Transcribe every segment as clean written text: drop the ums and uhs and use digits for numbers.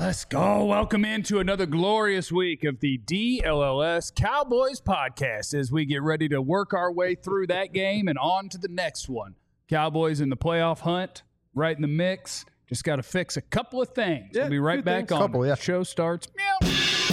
Let's go. Welcome into another glorious week of the DLLS Cowboys podcast as we get ready to work our way through that game and on to the next one. Cowboys in the playoff hunt, right in the mix. Just got to fix a couple of things. We'll be right back on. The show starts. Meow.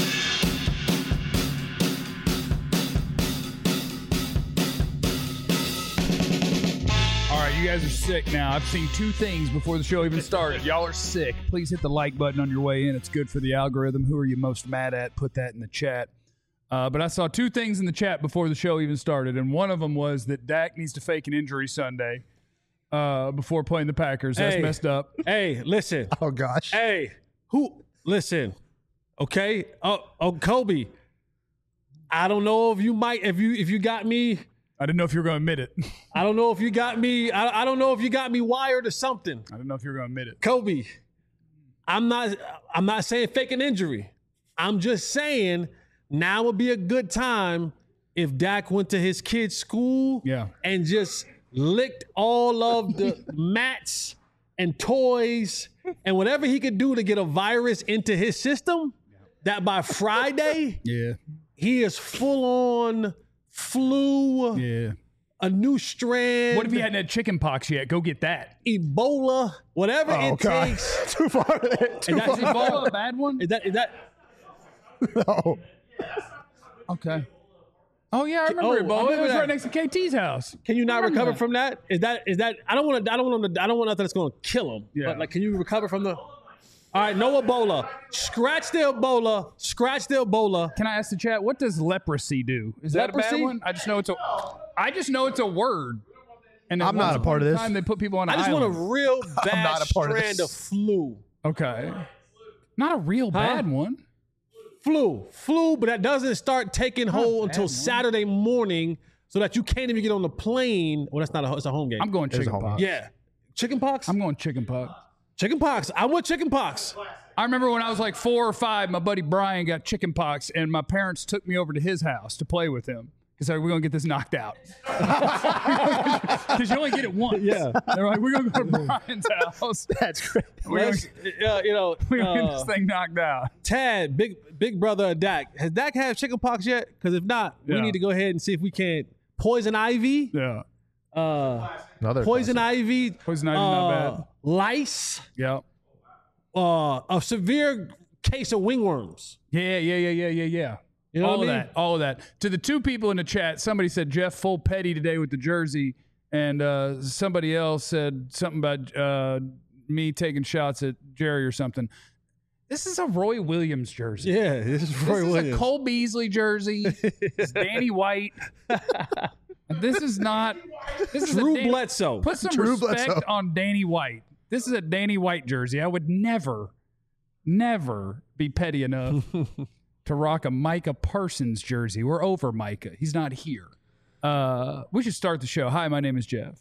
You guys are sick now. I've seen two things before the show even started. Y'all are sick. Please hit the like button on your way in. It's good for the algorithm. Who are you most mad at? Put that in the chat. But I saw two things in the chat before the show even started, and one of them was that Dak needs to fake an injury Sunday before playing the Packers. That's messed up. Hey, listen. Oh, gosh. Hey, listen. Okay? Oh, Kobe. I don't know if you might, if you got me. I didn't know if you were going to admit it. I don't know if you got me. I don't know if you got me wired or something. I didn't know if you were going to admit it. Kobe, I'm not saying fake an injury. I'm just saying now would be a good time if Dak went to his kid's school and just licked all of the mats and toys and whatever he could do to get a virus into his system, that by Friday, he is full on flu, a new strand. What if he hadn't had chicken pox yet? Go get that. Ebola, whatever it takes. Too far. Is Ebola a bad one? Is that? No. Okay. Oh yeah, I remember Ebola. It was right next to KT's house. Can you not recover from that? Is that? I don't want nothing that's going to kill him. Yeah. But like, can you recover from the? All right, no Ebola. Scratch the Ebola. Can I ask the chat, what does leprosy do? Is that a bad one? I just know it's a word. And I'm not a part of this. Time they put people on an I just island. want a real bad strand of flu. Okay. Not a real bad one. Flu, but that doesn't start taking hold until Saturday morning, so that you can't even get on the plane. Well, it's a home game. I'm going chicken pox. Yeah. Chicken pox? I'm going chicken pox. Chicken pox. I want chicken pox. I remember when I was like 4 or 5, my buddy Brian got chicken pox, and my parents took me over to his house to play with him. Because we're going to get this knocked out. Because you only get it once. Yeah. They're like, we're going to go to Brian's house. That's great. We're going to get this thing knocked out. Tad, big brother of Dak. Has Dak had chicken pox yet? Because if not, we need to go ahead and see if we can. Poison ivy. Yeah. Poison ivy. Poison ivy, not bad. Lice. Yeah. A severe case of wingworms. Yeah. You know all of that. To the two people in the chat, somebody said Jeff full petty today with the jersey, and somebody else said something about me taking shots at Jerry or something. This is a Roy Williams jersey. Yeah, this is Roy Williams. This is a Cole Beasley jersey. It's Danny White. This is not. This is Drew Bledsoe. Put some respect on Danny White. This is a Danny White jersey. I would never be petty enough to rock a Micah Parsons jersey. We're over Micah. He's not here. We should start the show. Hi, my name is Jeff.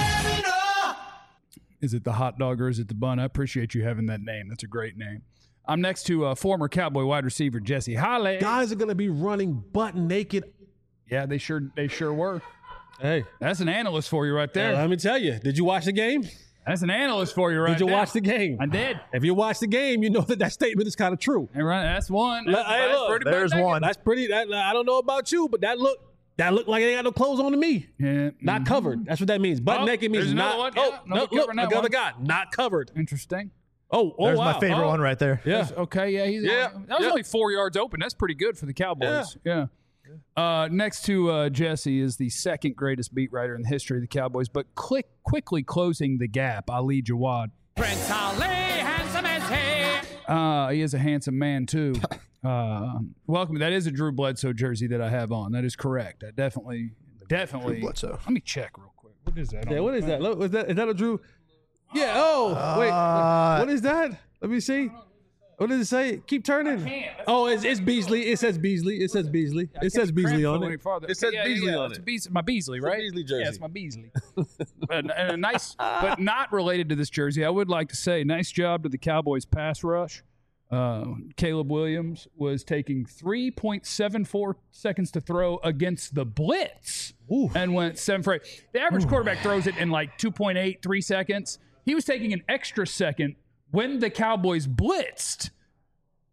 Is it the hot dog or is it the bun? I appreciate you having that name. That's a great name. I'm next to former Cowboy wide receiver Jesse Holley. Guys are going to be running butt naked. Yeah, they sure were. Hey. That's an analyst for you right there. Let me tell you. Did you watch the game? That's an analyst for you right there. Did you watch the game? I did. If you watch the game, you know that statement is kind of true. Hey, right, that's one. Hey, look, there's one. That's pretty. I don't know about you, but that looked like they ain't got no clothes on to me. Yeah. Not covered. That's what that means. Butt naked means not. One. Oh, no, look, another guy. Not covered. Interesting. Oh, there's wow. my favorite one right there. Yeah. Okay, yeah. That was only 4 yards open. That's pretty good for the Cowboys. Yeah. Next to Jesse is the second greatest beat writer in the history of the Cowboys, but quickly closing the gap, Ali Jawad. Prince Ali, handsome as he. He is a handsome man, too. Welcome. That is a Drew Bledsoe jersey that I have on. That is correct. I definitely. Drew Bledsoe. Let me check real quick. What is that? Yeah, what is that? Look, is that a Drew? Yeah. Oh, wait. What is that? Let me see. What does it say? Keep turning. Oh, it's Beasley. It says Beasley. It says Beasley on it. It says Beasley on it. It's my Beasley, right? Beasley jersey. Yeah, it's my Beasley. and a nice, but not related to this jersey. I would like to say, nice job to the Cowboys pass rush. Caleb Williams was taking 3.74 seconds to throw against the blitz and went 7 for 8. The average quarterback throws it in like 2.8, 3 seconds. He was taking an extra second when the Cowboys blitzed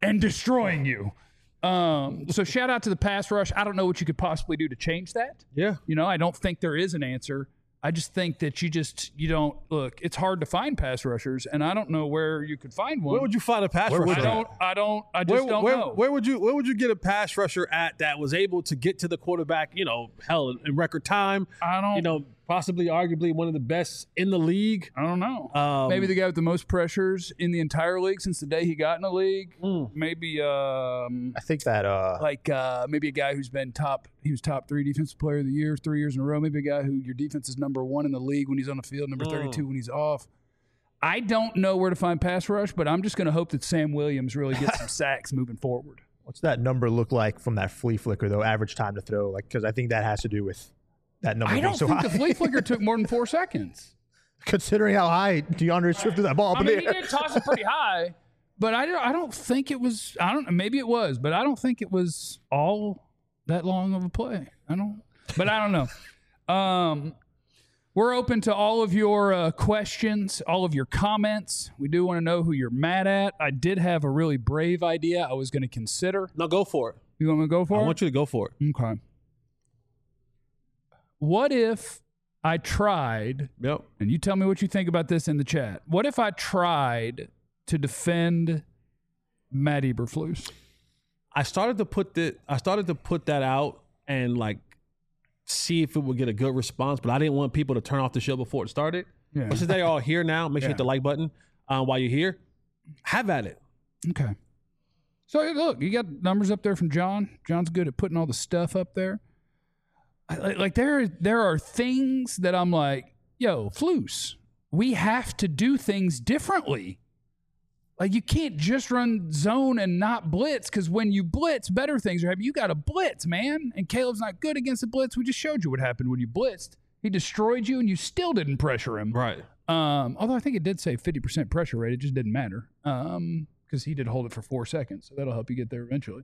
and destroying you. So shout out to the pass rush. I don't know what you could possibly do to change that. Yeah. I don't think there is an answer. I just think that you don't look. It's hard to find pass rushers, and I don't know where you could find one. Where would you find a pass rusher? I just don't know. Where would you get a pass rusher at that was able to get to the quarterback? Hell, in record time. Possibly, arguably one of the best in the league. I don't know. Maybe the guy with the most pressures in the entire league since the day he got in the league. Maybe I think that maybe a guy who's been he was top 3 defensive player of the year 3 years in a row. Maybe a guy who your defense is number 1 in the league when he's on the field, number 32 when he's off. I don't know where to find pass rush, but I'm just going to hope that Sam Williams really gets some sacks moving forward. What's that number look like from that flea flicker though? Average time to throw, because I think that has to do with that number. I don't think the flea flicker took more than 4 seconds. Considering how high DeAndre Swift threw that ball up in the air. He did toss it pretty high, but I don't think it was. Maybe it was, but I don't think it was all that long of a play. I don't know. We're open to all of your questions, all of your comments. We do want to know who you're mad at. I did have a really brave idea I was going to consider. No, go for it. You want me to go for it? I want you to go for it. Okay. What if I tried, and you tell me what you think about this in the chat. What if I tried to defend Matt Eberflus? I started to put that out and see if it would get a good response, but I didn't want people to turn off the show before it started. Yeah. But since they're all here now, make sure you hit the like button while you're here. Have at it. Okay. So look, you got numbers up there from John. John's good at putting all the stuff up there. There are things that I'm like, yo, Flus, we have to do things differently. You can't just run zone and not blitz, because when you blitz, better things are happening. You got to blitz, man. And Caleb's not good against the blitz. We just showed you what happened when you blitzed. He destroyed you, and you still didn't pressure him. Right. Although I think it did say 50% pressure rate. It just didn't matter because he did hold it for 4 seconds. So that'll help you get there eventually.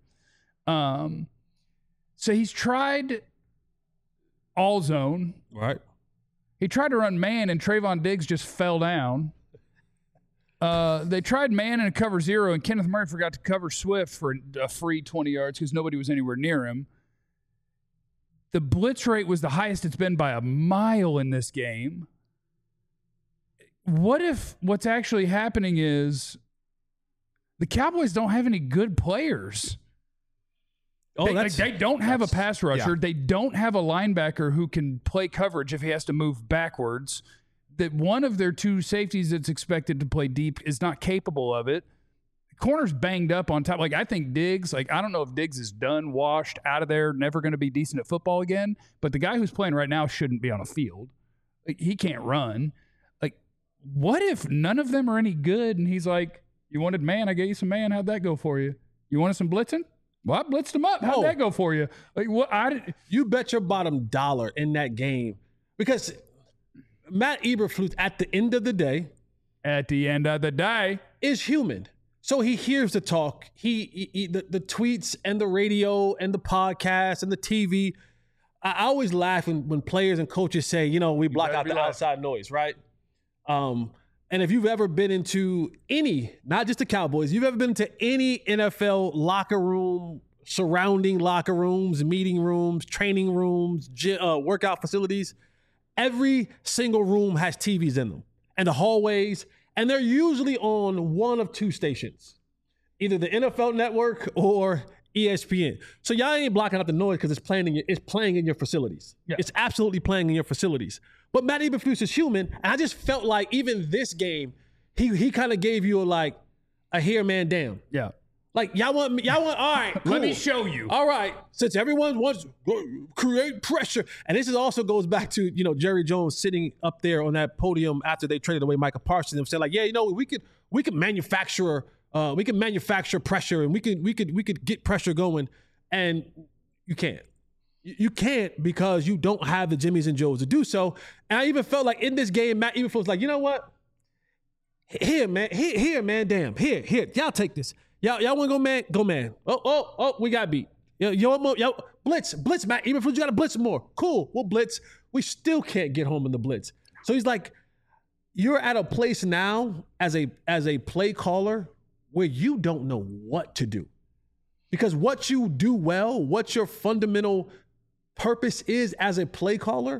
So he's tried all zone. Right. He tried to run man, and Trayvon Diggs just fell down. They tried man and cover 0, and Kenneth Murray forgot to cover Swift for a free 20 yards because nobody was anywhere near him. The blitz rate was the highest it's been by a mile in this game. What if what's actually happening is the Cowboys don't have any good players? They don't have a pass rusher. Yeah. They don't have a linebacker who can play coverage if he has to move backwards. That one of their 2 safeties that's expected to play deep is not capable of it. Corner's banged up on top. I think Diggs, I don't know if Diggs is done, washed, out of there, never going to be decent at football again. But the guy who's playing right now shouldn't be on a field. He can't run. What if none of them are any good? And he's like, you wanted man, I gave you some man. How'd that go for you? You wanted some blitzing? Well, I blitzed him up. How'd that go for you? You bet your bottom dollar in that game. Because Matt Eberflus, at the end of the day, is human. So he hears the talk, the tweets and the radio and the podcast and the TV. I always laugh when players and coaches say, we block out the outside noise, right? And if you've ever been into any, not just the Cowboys, you've ever been into any NFL locker room, surrounding locker rooms, meeting rooms, training rooms, workout facilities, every single room has TVs in them and the hallways, and they're usually on one of 2 stations, either the NFL Network or ESPN. So y'all ain't blocking out the noise because it's playing in your facilities. Yeah. It's absolutely playing in your facilities. But Matt Eberflus is human, and I just felt like even this game, he kind of gave you a here man damn. Yeah. Y'all want all right, cool. Let me show you. All right, since everyone wants to create pressure, and this also goes back to Jerry Jones sitting up there on that podium after they traded away Micah Parsons and saying we could manufacture pressure, and we could get pressure going, and you can't. You can't because you don't have the Jimmys and Joes to do so. And I even felt like in this game, Matt Eberflus was like, you know what? Here, man, damn, here, y'all take this. Y'all want to go man? Go man. Oh, we got beat. Yo, blitz, Matt Eberflus, you got to blitz more. Cool, we'll blitz. We still can't get home in the blitz. So he's like, you're at a place now as a play caller where you don't know what to do. Because what you do well, what your fundamental purpose is as a play caller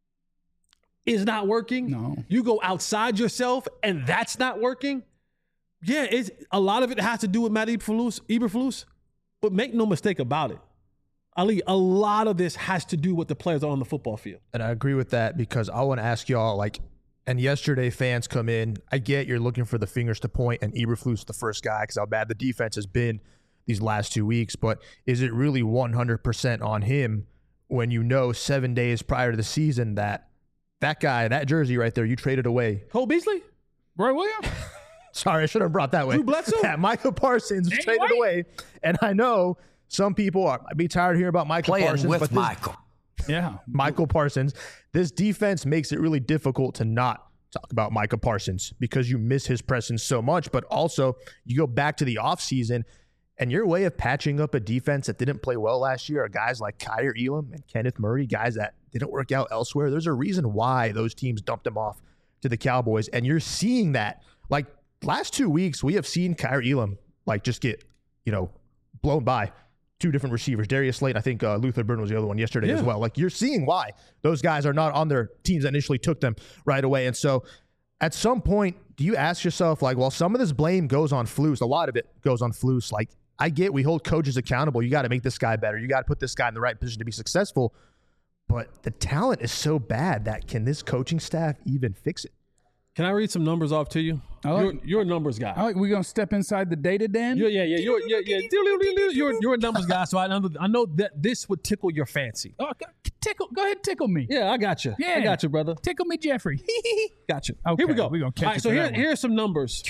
is not working. No. You go outside yourself and that's not working. Yeah, a lot of it has to do with Matt Eberflus, but make no mistake about it. Ali, a lot of this has to do with the players on the football field. And I agree with that because I want to ask y'all, and yesterday fans come in, I get you're looking for the fingers to point, and Eberflus the first guy because how bad the defense has been these last 2 weeks, but is it really 100% on him when you know 7 days prior to the season that guy, that jersey right there, you traded away? Cole Beasley? Roy Williams? Sorry, I should have brought that way. Drew Bledsoe? Yeah, Micah Parsons was traded away. And I know some people might be tired of hearing about Micah Parsons. With Michael. Yeah. Michael Parsons. This defense makes it really difficult to not talk about Micah Parsons because you miss his presence so much. But also, you go back to the offseason, and your way of patching up a defense that didn't play well last year are guys like Kyer Elam and Kenneth Murray, guys that didn't work out elsewhere. There's a reason why those teams dumped them off to the Cowboys. And you're seeing that. Like, last 2 weeks, we have seen Kyer Elam, just get, blown by two different receivers. Darius Slayton, I think Luther Burden was the other one yesterday as well. You're seeing why those guys are not on their teams that initially took them right away. And so at some point, do you ask yourself, some of this blame goes on Flus. A lot of it goes on Flus. I get we hold coaches accountable. You got to make this guy better. You got to put this guy in the right position to be successful. But the talent is so bad that can this coaching staff even fix it? Can I read some numbers off to you? You're a numbers guy. We're going to step inside the data den? Yeah. You're a numbers guy, so I know that this would tickle your fancy. Oh, go ahead, tickle me. Yeah, I got you. Yeah. I got you, brother. Tickle me, Jeffrey. Got you. Okay, here we go. We're going to catch All right, so here's some numbers.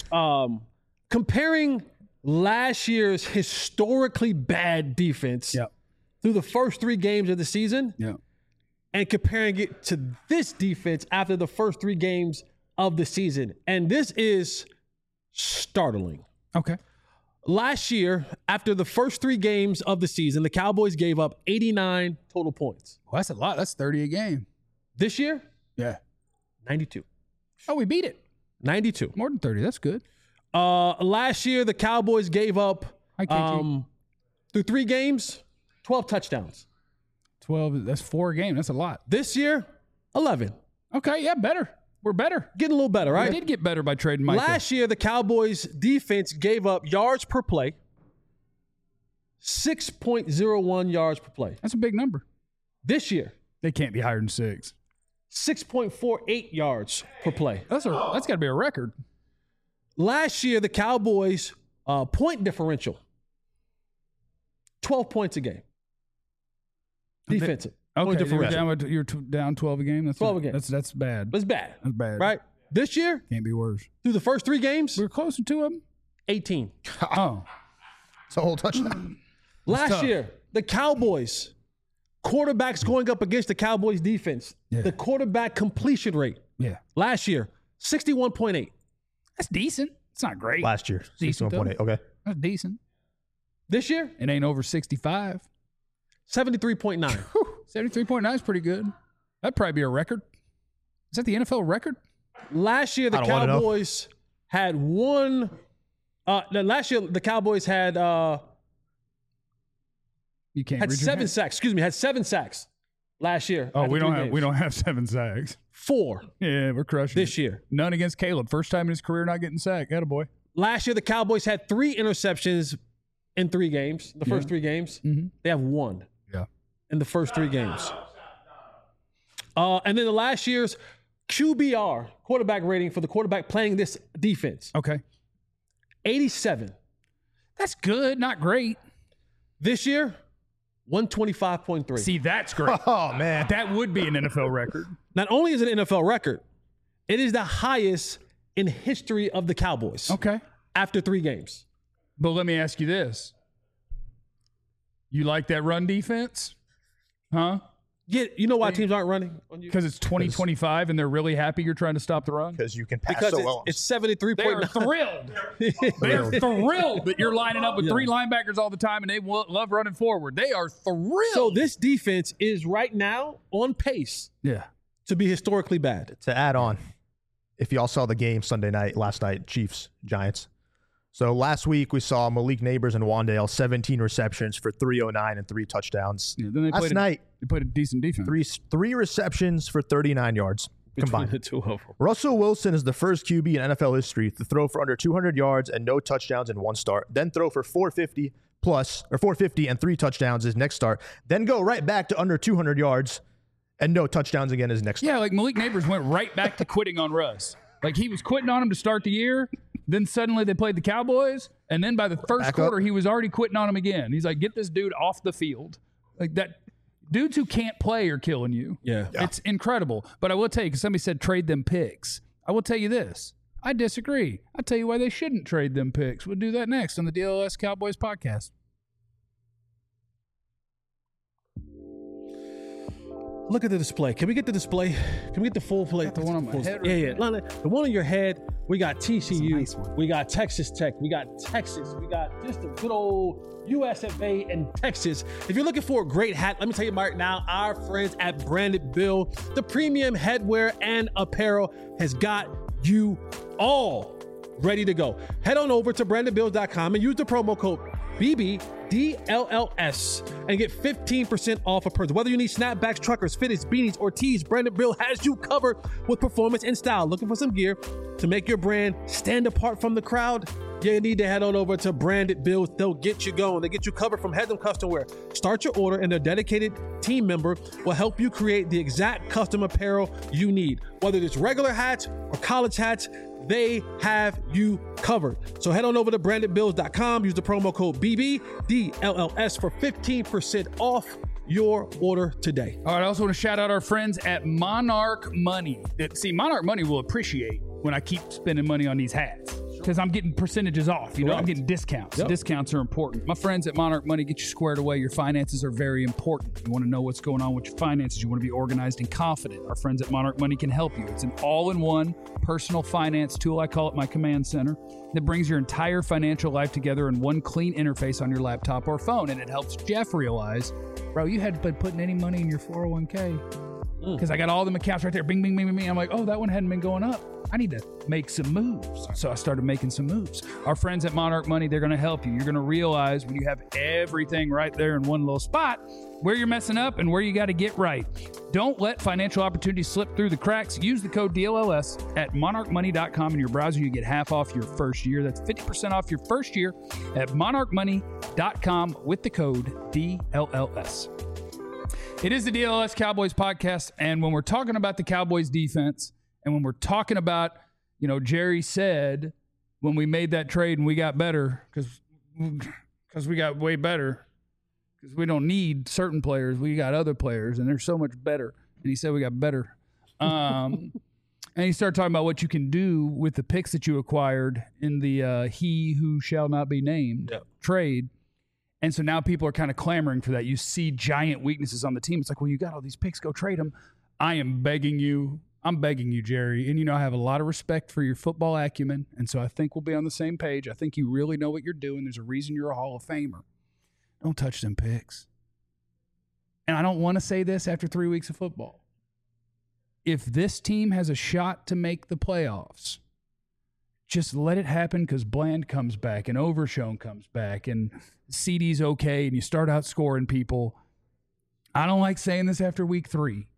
Comparing last year's historically bad defense through the first 3 games of the season and comparing it to this defense after the first 3 games of the season. And this is startling. Okay. Last year, after the first 3 games of the season, the Cowboys gave up 89 total points. Well, that's a lot. That's 30 a game. This year? Yeah. 92. Oh, we beat it. 92. More than 30. That's good. Last year, the Cowboys gave up, through 3 games, 12 touchdowns. 12, that's 4 a game. That's a lot. This year, 11. Okay, yeah, better. We're better. Getting a little better, right? We did get better by trading Micah. Last year, the Cowboys defense gave up yards per play, 6.01 yards per play. That's a big number. This year, they can't be higher than 6. 6.48 yards per play. That's got to be a record. Last year, the Cowboys point differential, 12 points a game. Defensive. Okay, you're down 12 a game. That's 12 a game. That's bad. It's bad. That's bad. Right? This year, can't be worse. Through the first 3 games, we're close to 2 of them. 18. Oh, it's a whole touchdown. Last year, the Cowboys quarterbacks going up against the Cowboys defense. Yeah. The quarterback completion rate. Yeah. Last year, 61.8. That's decent. It's not great. Last year, 61.8. Okay. That's decent. This year, it ain't over 65. 73.9. 73.9 is pretty good. That'd probably be a record. Is that the NFL record? Last year, the Cowboys had one. Last year, the Cowboys had. You can't. Had 7 sacks. Excuse me. Had 7 sacks last year. Oh, we don't have 7 sacks. 4. Yeah, we're crushing this year. None against Caleb. First time in his career not getting sacked. Attaboy. Last year, the Cowboys had 3 interceptions in 3 games. The first 3 games, they have 1. Yeah. In the first 3 games. And then the last year's QBR, quarterback rating for the quarterback playing this defense. Okay. 87. That's good, not great. This year, 125.3. See, that's great. Oh, man. That would be an NFL record. Not only is it an NFL record, it is the highest in history of the Cowboys. Okay. After 3 games. But let me ask you this. You like that run defense? Huh? Yeah, you know why teams aren't running on you? Because it's 2025 and they're really happy you're trying to stop the run? Because you can pass because so well. It's 73.9. They're thrilled. They're thrilled that you're lining up with 3 linebackers all the time and they love running forward. They are thrilled. So this defense is right now on pace to be historically bad. To add on, if y'all saw the game last night, Chiefs, Giants. So last week we saw Malik Neighbors and Wan'Dale 17 receptions for 309 and 3 touchdowns. Yeah, then they played a decent defense. Three receptions for 39 yards combined. Between the two of them. Russell Wilson is the first QB in NFL history to throw for under 200 yards and no touchdowns in one start, then throw for 450 and 3 touchdowns his next start, then go right back to under 200 yards and no touchdowns again his next start. Yeah, like Malik Neighbors went right back to quitting on Russ. Like he was quitting on him to start the year. Then suddenly they played the Cowboys, and then by the first quarter, he was already quitting on him again. He's like, get this dude off the field. Like that, dudes who can't play are killing you. Yeah. It's incredible. But I will tell you, because somebody said trade them picks. I will tell you this. I disagree. I'll tell you why they shouldn't trade them picks. We'll do that next on the DLS Cowboys podcast. Look at the display. Can we get the display? Can we get the full play? The one on my head. Yeah. The one on your head. We got TCU. Nice, we got Texas Tech. We got Texas. We got just a good old USFA and Texas. If you're looking for a great hat, let me tell you right now, our friends at Branded Bill, the premium headwear and apparel has got you all ready to go. Head on over to brandedbills.com and use the promo code BBDLLS and get 15% off a purchase. Whether you need snapbacks, truckers, fitteds, beanies, or tees, Branded Bill has you covered with performance and style. Looking for some gear to make your brand stand apart from the crowd? You need to head on over to Branded Bills. They'll get you going. They get you covered from head to custom wear. Start your order and their dedicated team member will help you create the exact custom apparel you need. Whether it's regular hats or college hats, they have you covered. So head on over to brandedbills.com. Use the promo code BBDLLS for 15% off your order today. All right, I also want to shout out our friends at Monarch Money. See, Monarch Money will appreciate when I keep spending money on these hats because I'm getting percentages off. I'm getting discounts. Yep. Discounts are important. My friends at Monarch Money get you squared away. Your finances are very important. You want to know what's going on with your finances. You want to be organized and confident. Our friends at Monarch Money can help you. It's an all-in-one personal finance tool. I call it my command center. That brings your entire financial life together in one clean interface on your laptop or phone. And it helps Jeff realize, bro, you hadn't been putting any money in your 401k. Because I got all the accounts right there. Bing, bing, bing, bing, bing. I'm like, oh, that one hadn't been going up. I need to make some moves. So I started making some moves. Our friends at Monarch Money, they're going to help you. You're going to realize when you have everything right there in one little spot where you're messing up and where you got to get right. Don't let financial opportunities slip through the cracks. Use the code DLLS at monarchmoney.com in your browser. You get half off your first year. That's 50% off your first year at monarchmoney.com with the code DLLS. It is the DLS Cowboys podcast, and when we're talking about the Cowboys defense, and when we're talking about, Jerry said when we made that trade and we got better, because we got way better, because we don't need certain players, we got other players, and they're so much better. And he said we got better. And he started talking about what you can do with the picks that you acquired in the he who shall not be named trade. And so now people are kind of clamoring for that. You see giant weaknesses on the team. It's like, well, you got all these picks. Go trade them. I am begging you. I'm begging you, Jerry. And, I have a lot of respect for your football acumen. And so I think we'll be on the same page. I think you really know what you're doing. There's a reason you're a Hall of Famer. Don't touch them picks. And I don't want to say this after 3 weeks of football. If this team has a shot to make the playoffs, just let it happen because Bland comes back and Overshown comes back and CD's okay and you start out scoring people. I don't like saying this after week 3.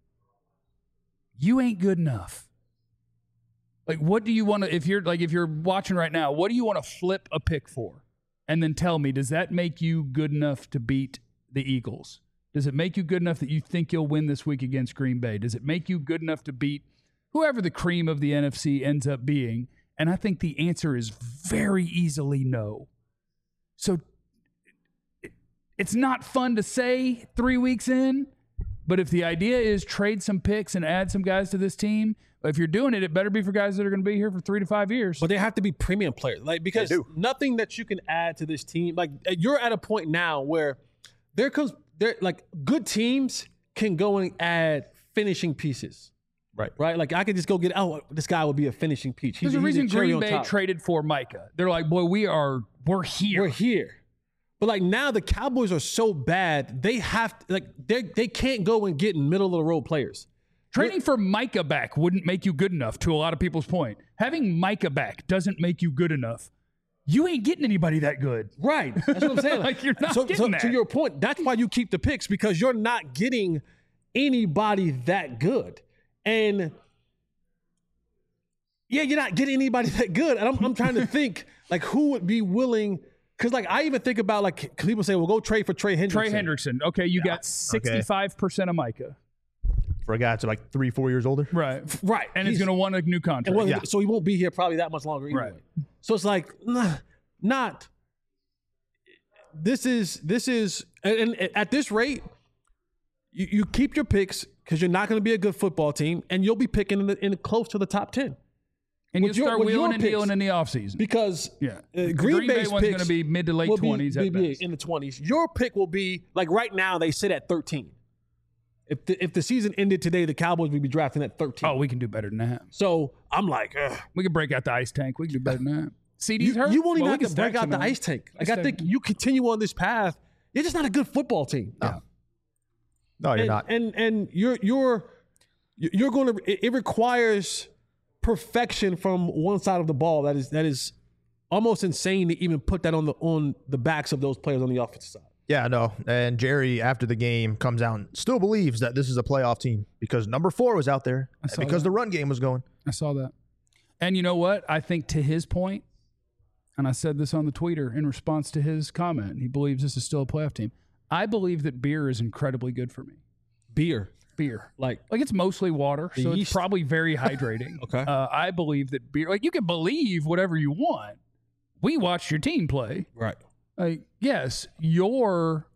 You ain't good enough. Like, what do you want to, if you're watching right now, what do you want to flip a pick for? And then tell me, does that make you good enough to beat the Eagles? Does it make you good enough that you think you'll win this week against Green Bay? Does it make you good enough to beat whoever the cream of the NFC ends up being? And I think the answer is very easily no. So it's not fun to say 3 weeks in, but if the idea is trade some picks and add some guys to this team, if you're doing it, it better be for guys that are going to be here for 3 to 5 years. But they have to be premium players, because nothing that you can add to this team, you're at a point now where good teams can go and add finishing pieces. Right. Like I could just go get, this guy will be a finishing piece. There's a reason Green Bay traded for Micah. They're like, boy, we're here. We're here. But now the Cowboys are so bad, they have to, they can't go and get middle of the road players. Trading for Micah back wouldn't make you good enough, to a lot of people's point. Having Micah back doesn't make you good enough. you ain't getting anybody that good. Right. That's what I'm saying. Like, you're not getting that. To your point, that's why you keep the picks, because you're not getting anybody that good. And yeah, you're not getting anybody that good. And I'm trying to think, like, who would be willing, because, like, I even think about, like, people say, well, go trade for Trey Hendrickson. Trey Hendrickson. Okay, you got 65% of Micah. For a guy that's like 3-4 years older. Right. And he's going to want a new contract. So he won't be here probably that much longer anyway. Right. So it's like, this is, and at this rate, you keep your picks because you're not going to be a good football team, and you'll be picking in close to the top 10. And you start wheeling and dealing in the offseason. Because Green Bay's one's going to be mid to late 20s at best. In the 20s. Your pick will be, like, right now they sit at 13. If the season ended today, the Cowboys would be drafting at 13. Oh, we can do better than that. So I'm like, we can break out the ice tank. We can do better than that. CD's hurt. You won't even have to break out the ice tank. Like, I think you continue on this path, you're just not a good football team. No, you're not. And you're going to. It requires perfection from one side of the ball. That is almost insane to even put that on the backs of those players on the offensive side. Yeah, no. And Jerry, after the game, comes out and still believes that this is a playoff team because number 4 was out there because the run game was going. I saw that. And you know what? I think to his point, and I said this on the tweeter in response to his comment, he believes this is still a playoff team. I believe that beer is incredibly good for me. Beer. Like it's mostly water, so it's probably very hydrating. Okay. I believe that beer, like, you can believe whatever you want. We watched your team play. Right. Yes, your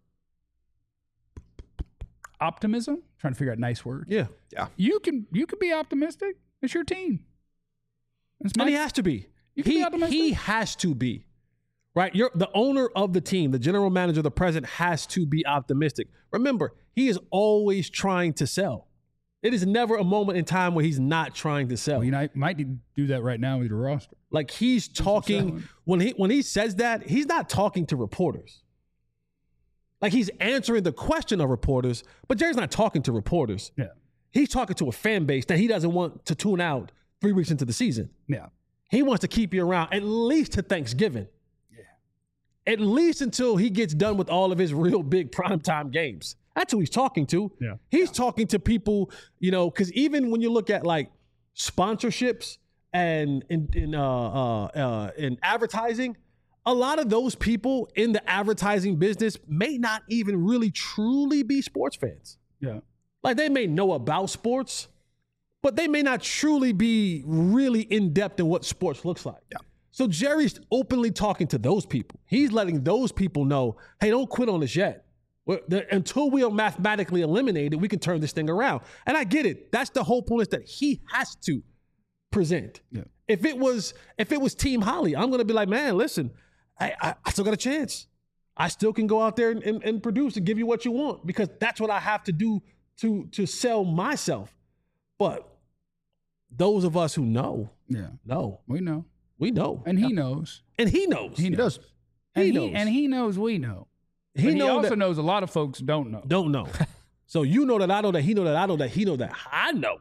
optimism, trying to figure out nice words. Yeah. You can be optimistic. It's your team. And he has to be. He has to be. Right? You're the owner of the team, the general manager, the president has to be optimistic. Remember, he is always trying to sell. It is never a moment in time where he's not trying to sell. Well, you might do that right now with your roster. Like, he's talking when he says that, he's not talking to reporters. Like, he's answering the question of reporters, but Jerry's not talking to reporters. Yeah. He's talking to a fan base that he doesn't want to tune out 3 weeks into the season. Yeah. He wants to keep you around at least to Thanksgiving. Yeah. At least until he gets done with all of his real big primetime games. That's who he's talking to. Yeah. He's talking to people, because even when you look at, like, sponsorships and in advertising, a lot of those people in the advertising business may not even really truly be sports fans. Yeah. Like, they may know about sports, but they may not truly be really in depth in what sports looks like. Yeah. So Jerry's openly talking to those people. He's letting those people know, hey, don't quit on us yet. Until we are mathematically eliminated, we can turn this thing around. And I get it. That's the whole point, is that he has to present. Yeah. If it was Team Holly, I'm going to be like, man, listen, I still got a chance. I still can go out there and produce and give you what you want, because that's what I have to do to sell myself. But those of us who know, we know. And he knows. And he knows. He knows. He knows. And he knows we know. He also knows a lot of folks don't know. So you know that I know that he know that I know that he know that I know.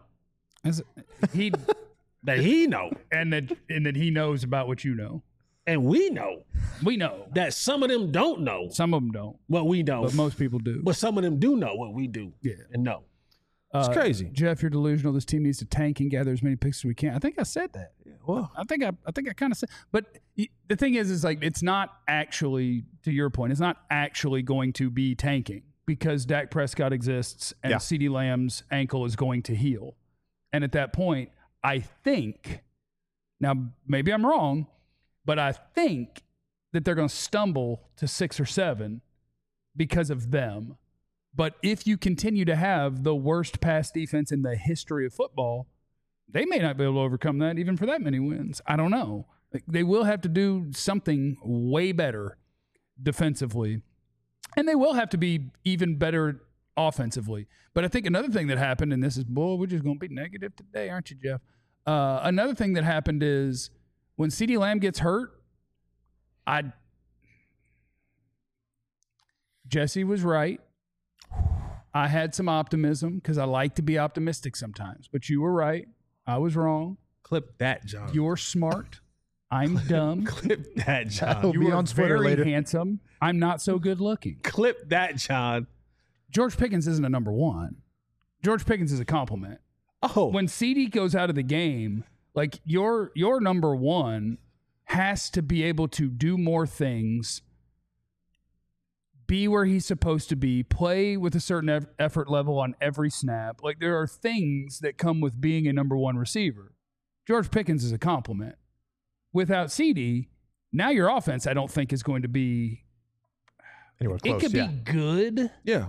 That he know. And that he knows about what you know. And we know that some of them don't know. Some of them don't. What we know. But most people do. But some of them do know what we do. Yeah. And know. It's crazy. Jeff, you're delusional. This team needs to tank and gather as many picks as we can. I think I said that. Yeah, well, I think I kind of said. But the thing is like, it's not actually, to your point, it's not actually going to be tanking, because Dak Prescott exists and CeeDee Lamb's ankle is going to heal. And at that point, I think, now maybe I'm wrong, but I think that they're going to stumble to 6 or 7 because of them. But if you continue to have the worst pass defense in the history of football, they may not be able to overcome that even for that many wins. I don't know. They will have to do something way better defensively, and they will have to be even better offensively. But I think another thing that happened, and this is, we're just going to be negative today, aren't you, Jeff? Another thing that happened is when CeeDee Lamb gets hurt, Jesse was right. I had some optimism because I like to be optimistic sometimes. But you were right. I was wrong. Clip that, John. You're smart. I'm dumb. Clip that, John. You are very handsome. I'm not so good looking. Clip that, John. George Pickens isn't a number one. George Pickens is a compliment. Oh. When CD goes out of the game, like your number one has to be able to do more things, be where he's supposed to be, play with a certain effort level on every snap. Like there are things that come with being a number one receiver. George Pickens is a compliment. Without CD, now your offense I don't think is going to be anywhere close. It could be good. Yeah.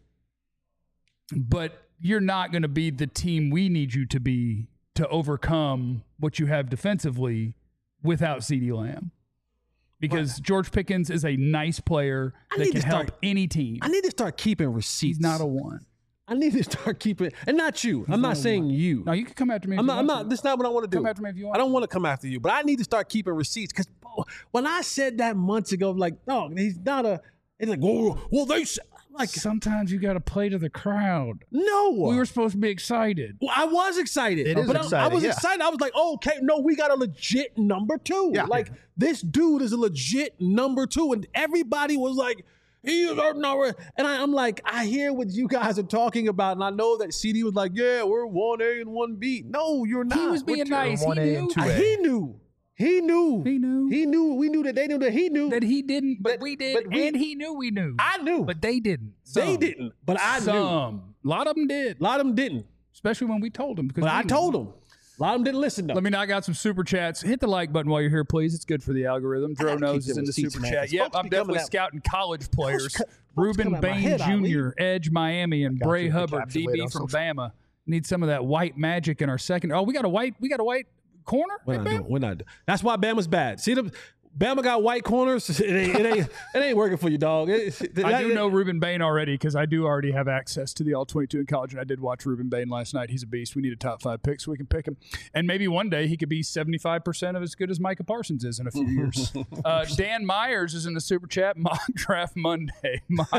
But you're not going to be the team we need you to be to overcome what you have defensively without CeeDee Lamb. Because George Pickens is a nice player that can help any team. I need to start keeping receipts. He's not a one. I need to start keeping, and not you. I'm not saying you. No, you can come after me. I'm not. That's not what I want to do. Come after me if you want. I don't want to come after you, but I need to start keeping receipts because when I said that months ago, like, no, he's not a. It's like, well, they like. Sometimes you got to play to the crowd. No, we were supposed to be excited. Well, I was excited. It is exciting. I was excited. I was like, oh, okay, no, we got a legit number two. Yeah. Like this dude is a legit number two, and everybody was like. He is our number, and I'm like, I hear what you guys are talking about, and I know that CD was like, yeah, we're 1A and 1B. No, you're not. He was being nice. He knew. He knew. We knew that they knew that he knew that he didn't, but we did, and he knew we knew. I knew, but they didn't. They didn't, but I knew. A lot of them did. A lot of them didn't, especially when we told them. But I told them. A lot of them didn't listen, though. Let me knock out some super chats. Hit the like button while you're here, please. It's good for the algorithm. Dro knows is in the super chat. Yep, I'm definitely scouting college players. Ruben Bain Jr., Edge, Miami, and Bray Hubbard, DB from Bama. Need some of that white magic in our second. Oh, we got a white corner? We're not doing. That's why Bama's bad. See them. Bama got white corners. It ain't working for you, dog. I do know Ruben Bain already because I do already have access to the All-22 in college, and I did watch Ruben Bain last night. He's a beast. We need a top 5 pick so we can pick him. And maybe one day he could be 75% of as good as Micah Parsons is in a few years. Dan Myers is in the super chat. Mock Draft Monday.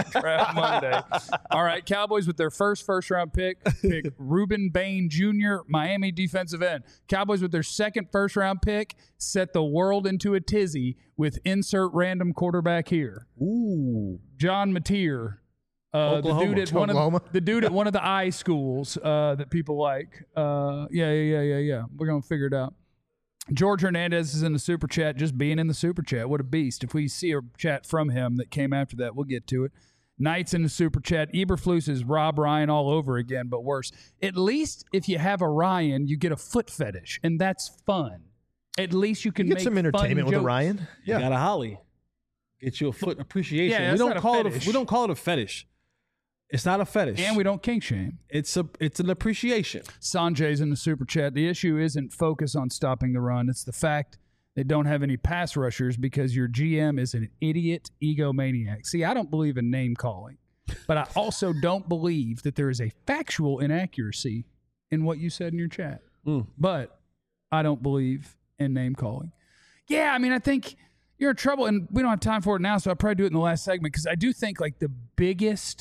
All right, Cowboys with their first-round pick Ruben Bain Jr., Miami defensive end. Cowboys with their second first-round pick set the world into a tizzy with insert random quarterback here. Ooh, John Mateer, the dude at one of the I schools that people like. Yeah. We're gonna figure it out. George Hernandez is in the super chat. Just being in the super chat, what a beast! If we see a chat from him that came after that, we'll get to it. Knight's in the super chat. Eberflus is Rob Ryan all over again, but worse. At least if you have a Ryan, you get a foot fetish, and that's fun. At least you can get make some entertainment with a Ryan. Yeah, you got a Holly. Get you a foot appreciation. Yeah, we don't call it a fetish. It's not a fetish, and we don't kink shame. It's an appreciation. Sanjay's in the super chat. The issue isn't focus on stopping the run. It's the fact they don't have any pass rushers because your GM is an idiot egomaniac. See, I don't believe in name calling, but I also don't believe that there is a factual inaccuracy in what you said in your chat. But I don't believe in name calling. Yeah, I mean, I think you're in trouble, and we don't have time for it now, so I'll probably do it in the last segment because I do think like the biggest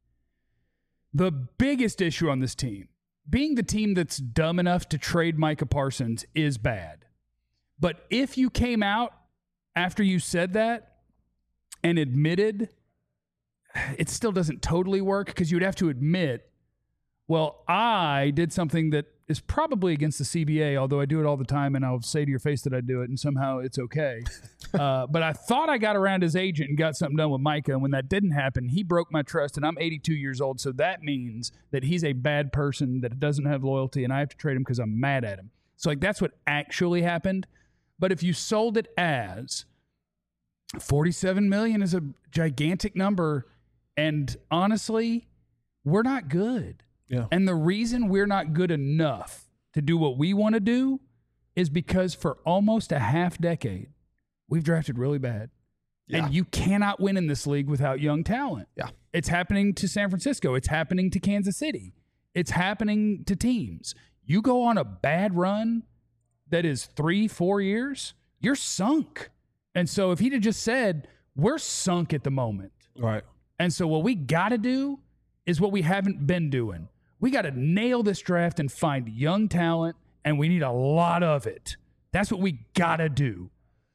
issue on this team, being the team that's dumb enough to trade Micah Parsons is bad. But if you came out after you said that and admitted, it still doesn't totally work because you would have to admit, well, I did something that is probably against the CBA, although I do it all the time, and I'll say to your face that I do it, and somehow it's okay. But I thought I got around his agent and got something done with Micah, and when that didn't happen, he broke my trust, and I'm 82 years old, so that means that he's a bad person that doesn't have loyalty, and I have to trade him because I'm mad at him. So, like, that's what actually happened. But if you sold it as $47 million is a gigantic number, and honestly, we're not good. Yeah. And the reason we're not good enough to do what we want to do is because for almost a half decade, we've drafted really bad. Yeah. And you cannot win in this league without young talent. Yeah. It's happening to San Francisco. It's happening to Kansas City. It's happening to teams. You go on a bad run that is 3-4 years, you're sunk. And so if he'd have just said, we're sunk at the moment. Right. And so what we got to do is what we haven't been doing. We got to nail this draft and find young talent, and we need a lot of it That's what we gotta do.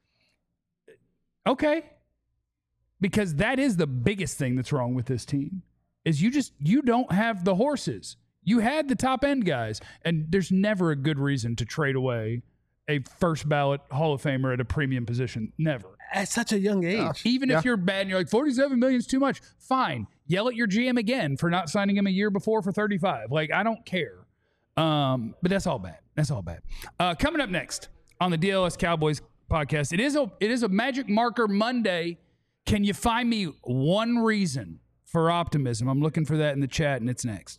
Okay. Because that is the biggest thing that's wrong with this team is you don't have the horses. You had the top end guys, and there's never a good reason to trade away a first ballot Hall of Famer at a premium position. Never. At such a young age. Even if you're bad and you're like, $47 million is too much, fine. Yell at your GM again for not signing him a year before for 35. Like, I don't care. But that's all bad. That's all bad. Coming up next on the DLS Cowboys podcast, it is a Magic Marker Monday. Can you find me one reason for optimism? I'm looking for that in the chat, and it's next.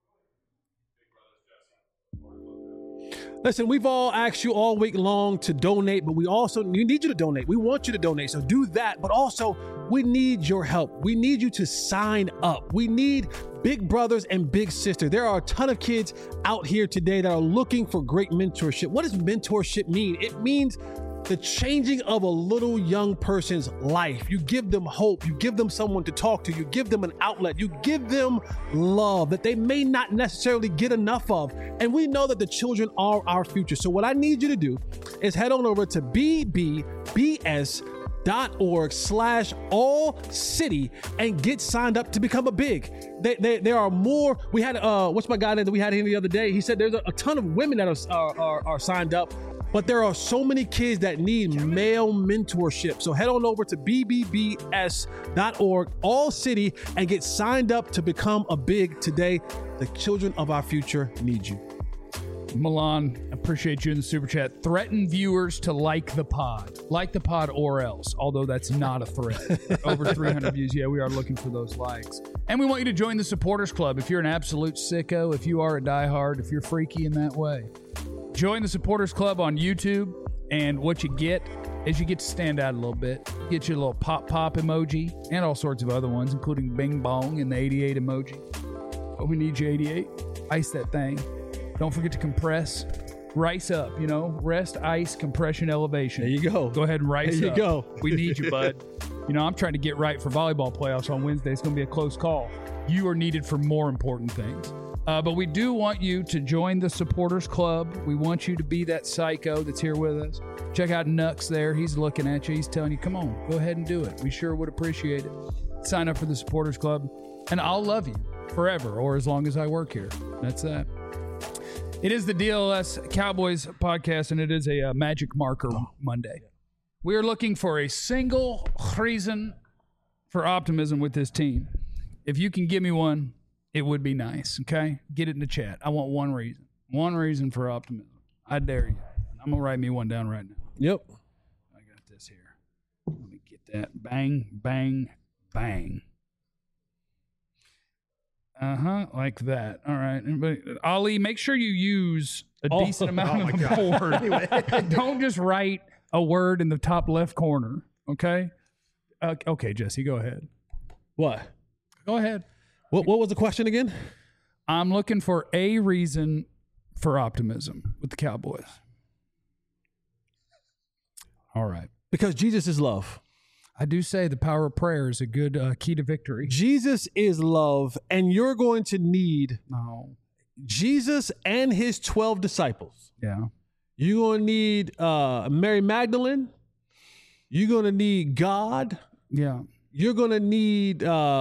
Listen, we've all asked you all week long to donate, but we need you to donate. We want you to donate, so do that. But also, we need your help. We need you to sign up. We need big brothers and big sisters. There are a ton of kids out here today that are looking for great mentorship. What does mentorship mean? It means the changing of a little young person's life. You give them hope. You give them someone to talk to. You give them an outlet. You give them love that they may not necessarily get enough of. And we know that the children are our future. So what I need you to do is head on over to bbbs.org/all-city and get signed up to become a big. There are more. We had, what's my guy that we had here the other day? He said there's a ton of women that are signed up. But there are so many kids that need male mentorship. So head on over to bbbs.org, all city, and get signed up to become a big today. The children of our future need you. Milan, appreciate you in the super chat. Threaten viewers to like the pod or else, although that's not a threat. Over 300 views. Yeah, we are looking for those likes. And we want you to join the supporters club. If you're an absolute sicko, if you are a diehard, if you're freaky in that way, join the supporters club on YouTube, and what you get is you get to stand out a little bit. Get your little pop emoji and all sorts of other ones, including Bing Bong and the 88 emoji. Oh, we need you, 88. Ice that thing. Don't forget to compress. Rice up, rest, ice, compression, elevation. There you go. Go ahead and rice up. There you go. We need you, bud. I'm trying to get right for volleyball playoffs on Wednesday. It's going to be a close call. You are needed for more important things. But we do want you to join the supporters club. We want you to be that psycho that's here with us. Check out Nux there. He's looking at you. He's telling you, come on, go ahead and do it. We sure would appreciate it. Sign up for the supporters club, and I'll love you forever or as long as I work here. That's that. It is the DLS Cowboys podcast, and it is a Magic Marker Monday. We are looking for a single reason for optimism with this team. If you can give me one, it would be nice, okay? Get it in the chat. I want one reason. One reason for optimism. I dare you. I'm going to write me one down right now. Yep. I got this here. Let me get that. Bang, bang, bang. Like that. All right. Ali, make sure you use a decent amount of the board. Anyway. Don't just write a word in the top left corner, okay? Okay, Jesse, go ahead. What? Go ahead. What was the question again? I'm looking for a reason for optimism with the Cowboys. All right. Because Jesus is love. I do say the power of prayer is a good key to victory. Jesus is love, and you're going to need Jesus and his 12 disciples. Yeah. You're going to need Mary Magdalene. You're going to need God. Yeah. You're going to need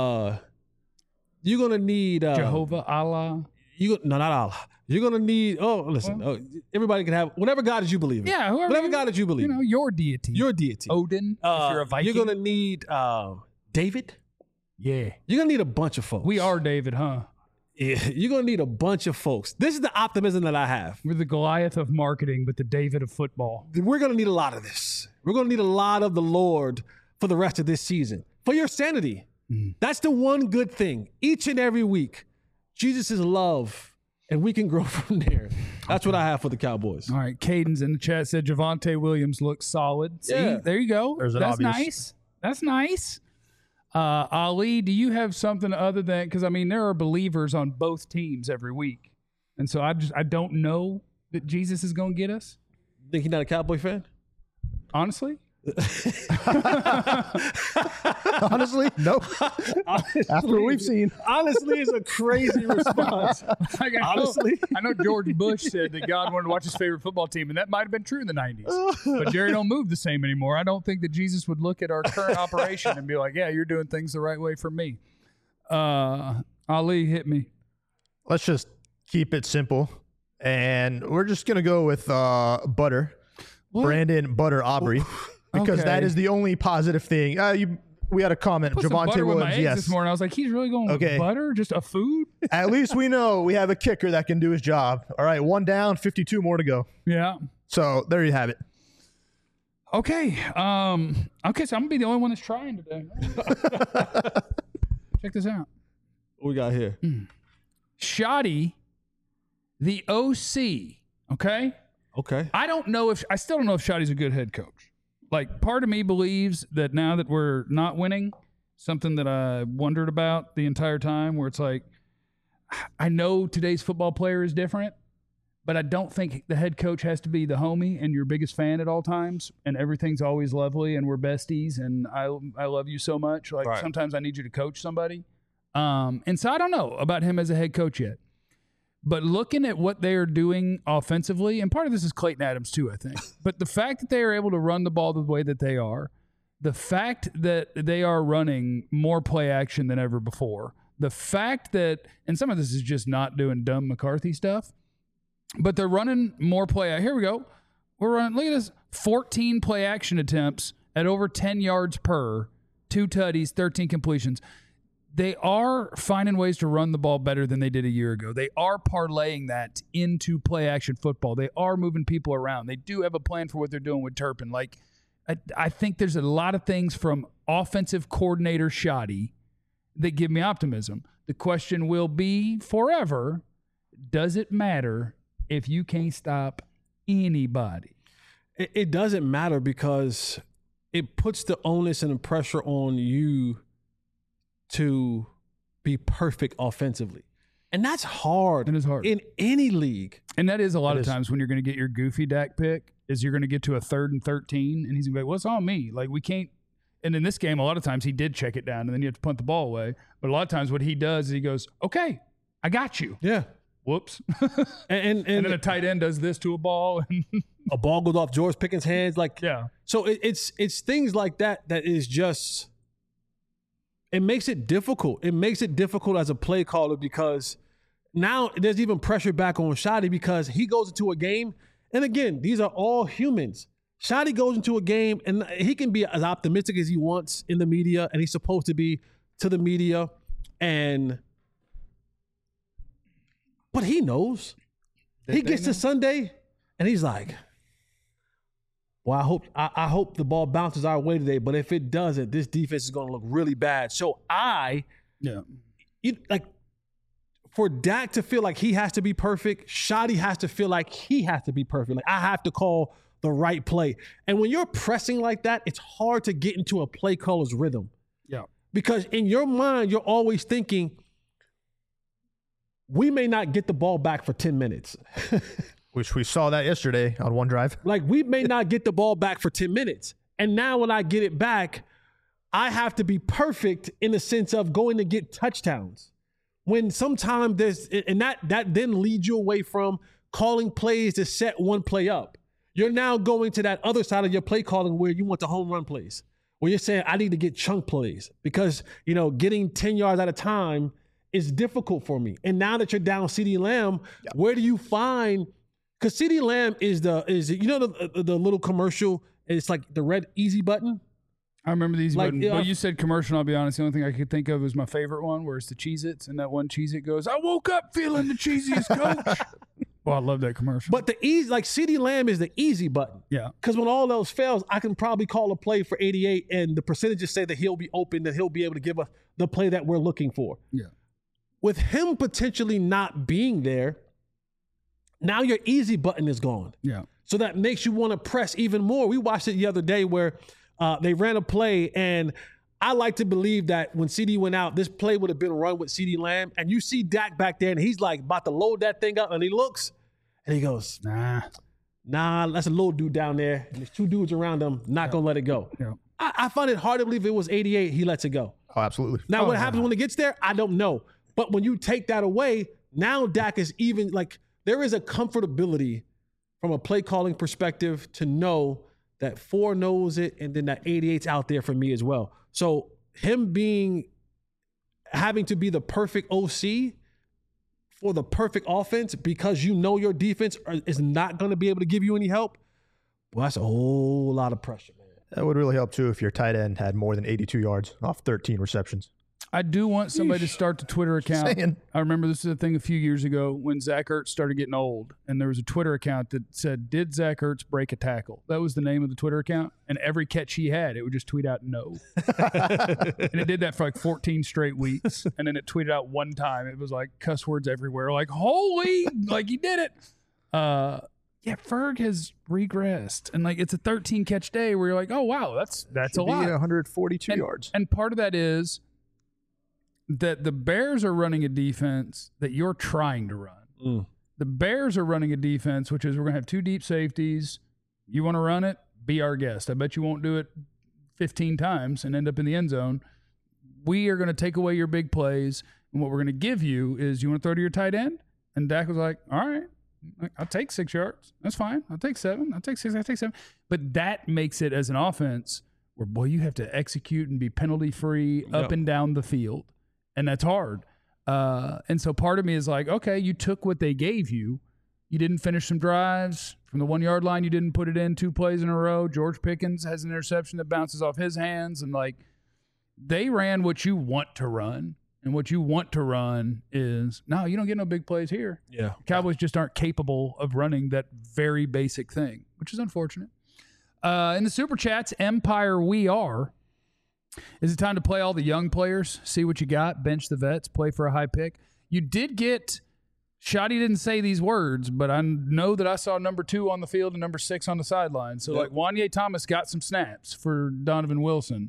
Jehovah, Allah. No, not Allah. You're going to need, everybody can have whatever God that you believe in. Yeah, whatever God that you believe in. Your deity. Your deity. Odin, if you're a Viking. You're going to need David. Yeah. You're going to need a bunch of folks. We are David, huh? Yeah, you're going to need a bunch of folks. This is the optimism that I have. We're the Goliath of marketing, but the David of football. We're going to need a lot of this. We're going to need a lot of the Lord for the rest of this season. For your sanity. That's the one good thing. Each and every week, Jesus is love, and we can grow from there. That's what I have for the Cowboys. All right. Cadence in the chat said Javonte Williams looks solid. See, there you go. That's nice. That's nice. Ali, do you have something other than, because there are believers on both teams every week. And so I don't know that Jesus is going to get us. Think he's not a Cowboy fan? Honestly? Honestly, nope. After what we've seen. Honestly is a crazy response. Like, I know George Bush said that God wanted to watch his favorite football team, and that might have been true in the 90s. But Jerry don't move the same anymore. I don't think that Jesus would look at our current operation and be like, yeah, you're doing things the right way for me. Ali, hit me. Let's just keep it simple. And we're just going to go with Butter. What? Brandon Butter Aubrey. Because that is the only positive thing. We had a comment. Javonte Williams, yes. This morning, I was like, he's really going with butter? Just a food? At least we know we have a kicker that can do his job. All right, 1 down, 52 more to go. Yeah. So there you have it. Okay. So I'm gonna be the only one that's trying today. Check this out. What we got here? Shoddy, the OC. Okay. I still don't know if Shoddy's a good head coach. Like, part of me believes that now that we're not winning, something that I wondered about the entire time, where it's like, I know today's football player is different, but I don't think the head coach has to be the homie and your biggest fan at all times, and everything's always lovely and we're besties and I love you so much. Like, sometimes I need you to coach somebody. And so I don't know about him as a head coach yet. But looking at what they are doing offensively, and part of this is Clayton Adams too, I think. But the fact that they are able to run the ball the way that they are, the fact that they are running more play action than ever before, the fact that, and some of this is just not doing dumb McCarthy stuff, but they're running more play. Here we go. We're running, look at this, 14 play action attempts at over 10 yards per, 2 tutties, 13 completions. They are finding ways to run the ball better than they did a year ago. They are parlaying that into play action football. They are moving people around. They do have a plan for what they're doing with Turpin. Like, I think there's a lot of things from offensive coordinator Shoddy that give me optimism. The question will be forever, does it matter if you can't stop anybody? It doesn't matter because it puts the onus and the pressure on you to be perfect offensively. And that's hard. It is hard. In any league. And that is a lot of times when you're going to get your goofy Dak pick, is you're going to get to a 3rd and 13, and he's going to be like, well, it's on me. Like, we can't. And in this game, a lot of times he did check it down, and then you have to punt the ball away. But a lot of times what he does is he goes, okay, I got you. Yeah. Whoops. and then a tight end does this to a ball. And a ball goes off George Pickens' hands. Like, yeah. So it's things like that is just – it makes it difficult. It makes it difficult as a play caller because now there's even pressure back on Shoddy because he goes into a game. And again, these are all humans. Shoddy goes into a game and he can be as optimistic as he wants in the media, and he's supposed to be to the media. But he knows. He gets to Sunday and he's like, well, I hope the ball bounces our way today, but if it doesn't, this defense is going to look really bad. So for Dak to feel like he has to be perfect, Shoddy has to feel like he has to be perfect. Like, I have to call the right play. And when you're pressing like that, it's hard to get into a play caller's rhythm. Yeah. Because in your mind, you're always thinking, we may not get the ball back for 10 minutes. Which we saw that yesterday on one drive. Like, we may not get the ball back for 10 minutes. And now when I get it back, I have to be perfect in the sense of going to get touchdowns. When sometimes that then leads you away from calling plays to set one play up. You're now going to that other side of your play calling where you want the home run plays. Where you're saying, I need to get chunk plays because, getting 10 yards at a time is difficult for me. And now that you're down CeeDee Lamb, where do you find... Because CeeDee Lamb is the little commercial, and it's like the red easy button. I remember the easy button. But you said commercial, I'll be honest. The only thing I could think of was my favorite one, where it's the Cheez-Its, and that one Cheez-It goes, I woke up feeling the cheesiest, coach. Well, I love that commercial. But CeeDee Lamb is the easy button. Yeah. Because when all else fails, I can probably call a play for 88, and the percentages say that he'll be open, that he'll be able to give us the play that we're looking for. Yeah. With him potentially not being there, now your easy button is gone. Yeah. So that makes you want to press even more. We watched it the other day where they ran a play, and I like to believe that when CD went out, this play would have been run with CeeDee Lamb. And you see Dak back there, and he's like about to load that thing up, and he looks, and he goes, nah, that's a little dude down there, and there's 2 dudes around him, not going to let it go. Yeah. I find it hard to believe it was 88. He lets it go. Oh, absolutely. Now, what happens when it gets there? I don't know. But when you take that away, now Dak is even like there is a comfortability from a play calling perspective to know that 4 knows it and then that 88's out there for me as well. So him having to be the perfect OC for the perfect offense because you know your defense is not going to be able to give you any help, well, that's a whole lot of pressure, man. That would really help too if your tight end had more than 82 yards off 13 receptions. I do want somebody to start the Twitter account. I remember this is a thing a few years ago when Zach Ertz started getting old, and there was a Twitter account that said, "Did Zach Ertz break a tackle?" That was the name of the Twitter account, and every catch he had, it would just tweet out "no," and it did that for like 14 straight weeks, and then it tweeted out one time. It was like cuss words everywhere, like "holy," like he did it. Yeah, Ferg has regressed, and like it's a 13 catch day where you're like, "Oh wow, that's a lot." 142 yards, and part of that is that the Bears are running a defense that you're trying to run. The Bears are running a defense, which is we're going to have 2 deep safeties. You want to run it? Be our guest. I bet you won't do it 15 times and end up in the end zone. We are going to take away your big plays, and what we're going to give you is you want to throw to your tight end? And Dak was like, all right, I'll take 6 yards. That's fine. I'll take 7. I'll take 6. I'll take 7. But that makes it as an offense where, boy, you have to execute and be penalty-free up and down the field. And that's hard. And so part of me is like, okay, you took what they gave you. You didn't finish some drives. From the 1-yard line, you didn't put it in 2 plays in a row. George Pickens has an interception that bounces off his hands. And, like, they ran what you want to run. And what you want to run is, no, you don't get no big plays here. Yeah. Cowboys just aren't capable of running that very basic thing, which is unfortunate. In the Super Chats, Empire We Are. Is it time to play all the young players? See what you got, bench the vets, play for a high pick. You did get, Shoddy didn't say these words, but I know that I saw number 2 on the field and number 6 on the sideline. So, like, Wanye Thomas got some snaps for Donovan Wilson.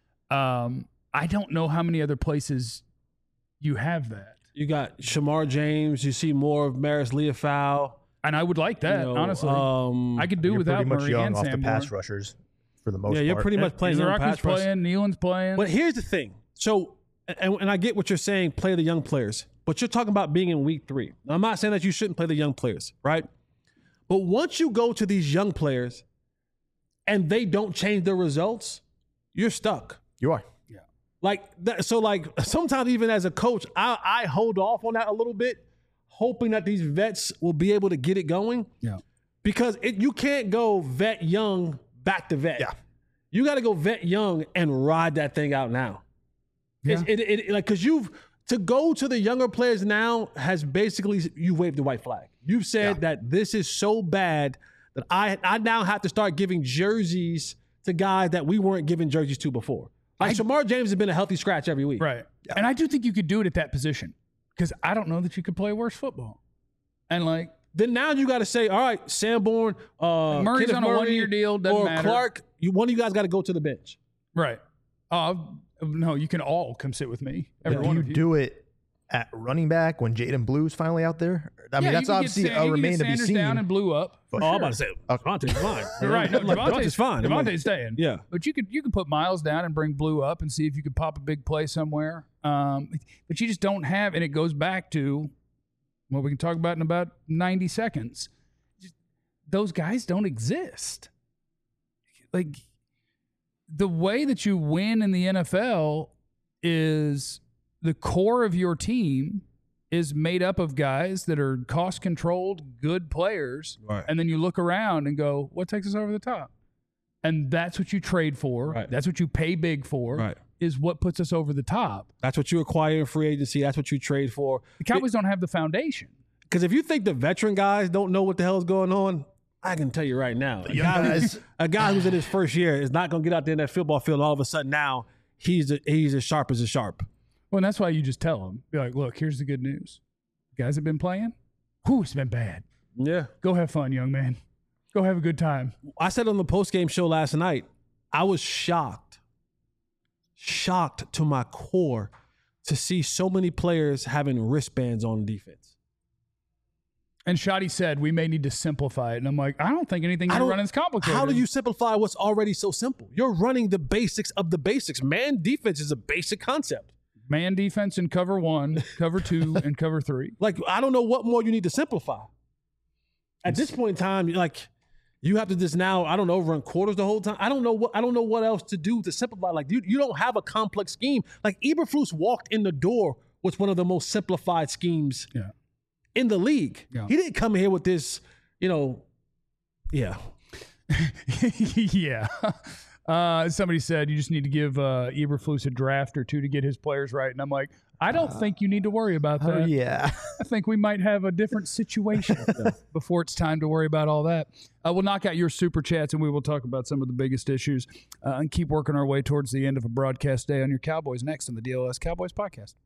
I don't know how many other places you have that. You got Shamar James. You see more of Maris Leofau. And I would like that, honestly. I could do without Murray young and off Sam the pass rushers. For the most part. Yeah, you're pretty much playing young pass rush. Playing, Nealon's playing. But here's the thing. So, and I get what you're saying, play the young players. But you're talking about being in week 3. Now, I'm not saying that you shouldn't play the young players, right? But once you go to these young players and they don't change their results, you're stuck. You are. Yeah. Like that, so like sometimes even as a coach, I hold off on that a little bit, hoping that these vets will be able to get it going. Yeah. Because you can't go vet young back to vet. Yeah. You got to go vet young and ride that thing out now. Yeah. Like, because to go to the younger players now has basically, you waved the white flag. You've said that this is so bad that I now have to start giving jerseys to guys that we weren't giving jerseys to before. Like Shamar James has been a healthy scratch every week. Right. Yeah. And I do think you could do it at that position because I don't know that you could play worse football. And like, then now you got to say, all right, Sanborn, Murray's Kenneth on a Murray, 1-year deal, doesn't or matter. Clark, one of you guys got to go to the bench. Right. No, you can all come sit with me. Every Do one you of you. do it at running back when Jaden Blue's finally out there? I mean, that's obviously a remain to be seen. Down and Blue up. I'm about to say, Devontae's fine. Right. No, Devontae's fine. Devontae's staying. Yeah. But you could put Miles down and bring Blue up and see if you could pop a big play somewhere. But you just don't have, and it goes back to what we can talk about in about 90 seconds. Those guys don't exist. Like, the way that you win in the NFL is the core of your team is made up of guys that are cost-controlled, good players, right. And then you look around and go, what takes us over the top? And that's what you trade for. Right. That's what you pay big for, right. Is what puts us over the top. That's what you acquire in free agency. That's what you trade for. The Cowboys don't have the foundation. Because if you think the veteran guys don't know what the hell is going on, I can tell you right now, a guy who's in his first year is not going to get out there in that football field. All of a sudden now he's as sharp as a sharp. Well, and that's why you just tell them, be like, look, here's the good news. You guys have been playing. Whew, it's been bad. Yeah. Go have fun, young man. Go have a good time. I said on the postgame show last night, I was shocked to my core to see so many players having wristbands on defense. And Shotty said, we may need to simplify it. And I'm like, I don't think anything you're running is complicated. How do you simplify what's already so simple? You're running the basics of the basics. Man defense is a basic concept. Man defense in cover 1, cover 2, and cover 3. Like, I don't know what more you need to simplify. At this point in time, like, you have to just now, I don't know, run quarters the whole time. I don't know what else to do to simplify. Like, you don't have a complex scheme. Like, Eberflus walked in the door with one of the most simplified schemes in the league. Yeah. He didn't come here with this, yeah. Somebody said you just need to give Eberflus a draft or 2 to get his players right. And I'm like, I don't think you need to worry about that. Oh, yeah. I think we might have a different situation before it's time to worry about all that. We'll knock out your super chats and we will talk about some of the biggest issues and keep working our way towards the end of a broadcast day on your Cowboys next on the DLS Cowboys podcast.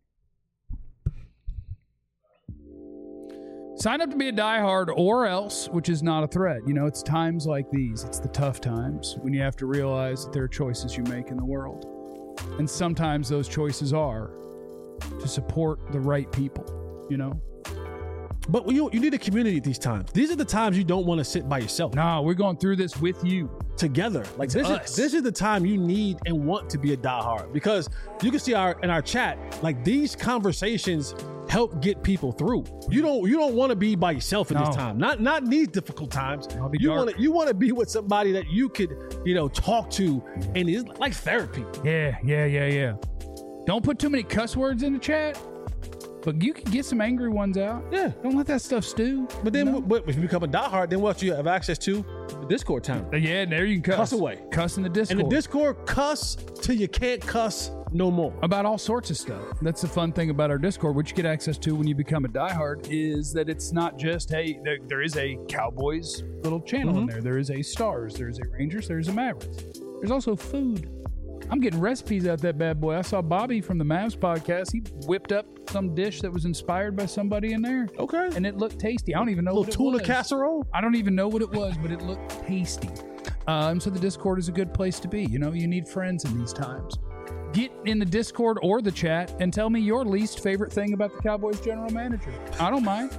Sign up to be a diehard or else, which is not a threat. It's times like these. It's the tough times when you have to realize that there are choices you make in the world. And sometimes those choices are to support the right people, But you need a community at these times. These are the times you don't want to sit by yourself. No, we're going through this with you. Together. Like this is the time you need and want to be a diehard, because you can see in our chat, like, these conversations help get people through. You don't want to be by yourself at this time. Not in these difficult times. You want to be with somebody that you could, talk to, and it's like therapy. Yeah. Don't put too many cuss words in the chat. But you can get some angry ones out. Yeah. Don't let that stuff stew. But then if you become a diehard, then what you have access to? The Discord time. Yeah, and there you can cuss. Cuss away. Cuss in the Discord. And the Discord, cuss till you can't cuss no more. About all sorts of stuff. That's the fun thing about our Discord, which you get access to when you become a diehard, is that it's not just, hey, there is a Cowboys little channel in there. There is a Stars. There's a Rangers. There's a Mavericks. There's also food. I'm getting recipes out that bad boy. I saw Bobby from the Mavs podcast. He whipped up some dish that was inspired by somebody in there. Okay. And it looked tasty. I don't even know what it was. Tuna casserole? I don't even know what it was, but it looked tasty. So the Discord is a good place to be. You need friends in these times. Get in the Discord or the chat and tell me your least favorite thing about the Cowboys general manager. I don't mind.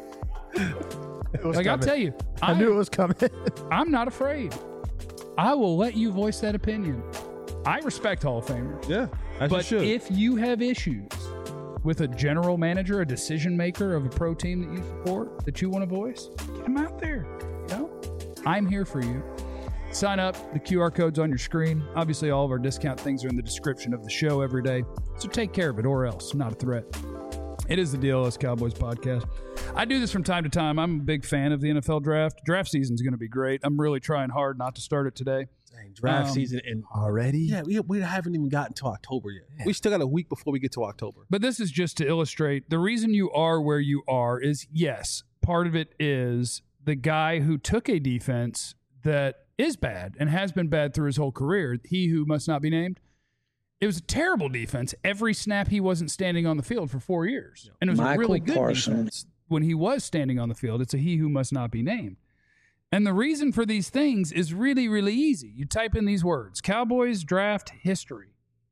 I'll tell you. I knew it was coming. I'm not afraid. I will let you voice that opinion. I respect Hall of Famers. Yeah, but if you have issues with a general manager, a decision maker of a pro team that you support, that you want to voice, get them out there. I'm here for you. Sign up. The QR code's on your screen. Obviously, all of our discount things are in the description of the show every day. So take care of it, or else. Not a threat. It is the DLS Cowboys podcast. I do this from time to time. I'm a big fan of the NFL draft. Draft season's going to be great. I'm really trying hard not to start it today. Dang, draft season already? Yeah, we haven't even gotten to October yet. Yeah. We still got a week before we get to October. But this is just to illustrate the reason you are where you are is, yes, part of it is the guy who took a defense that is bad and has been bad through his whole career, he who must not be named. It was a terrible defense. Every snap he wasn't standing on the field for 4 years. And it was a really good defense when he was standing on the field. It's a he who must not be named. And the reason for these things is really, really easy. You type in these words: Cowboys draft history.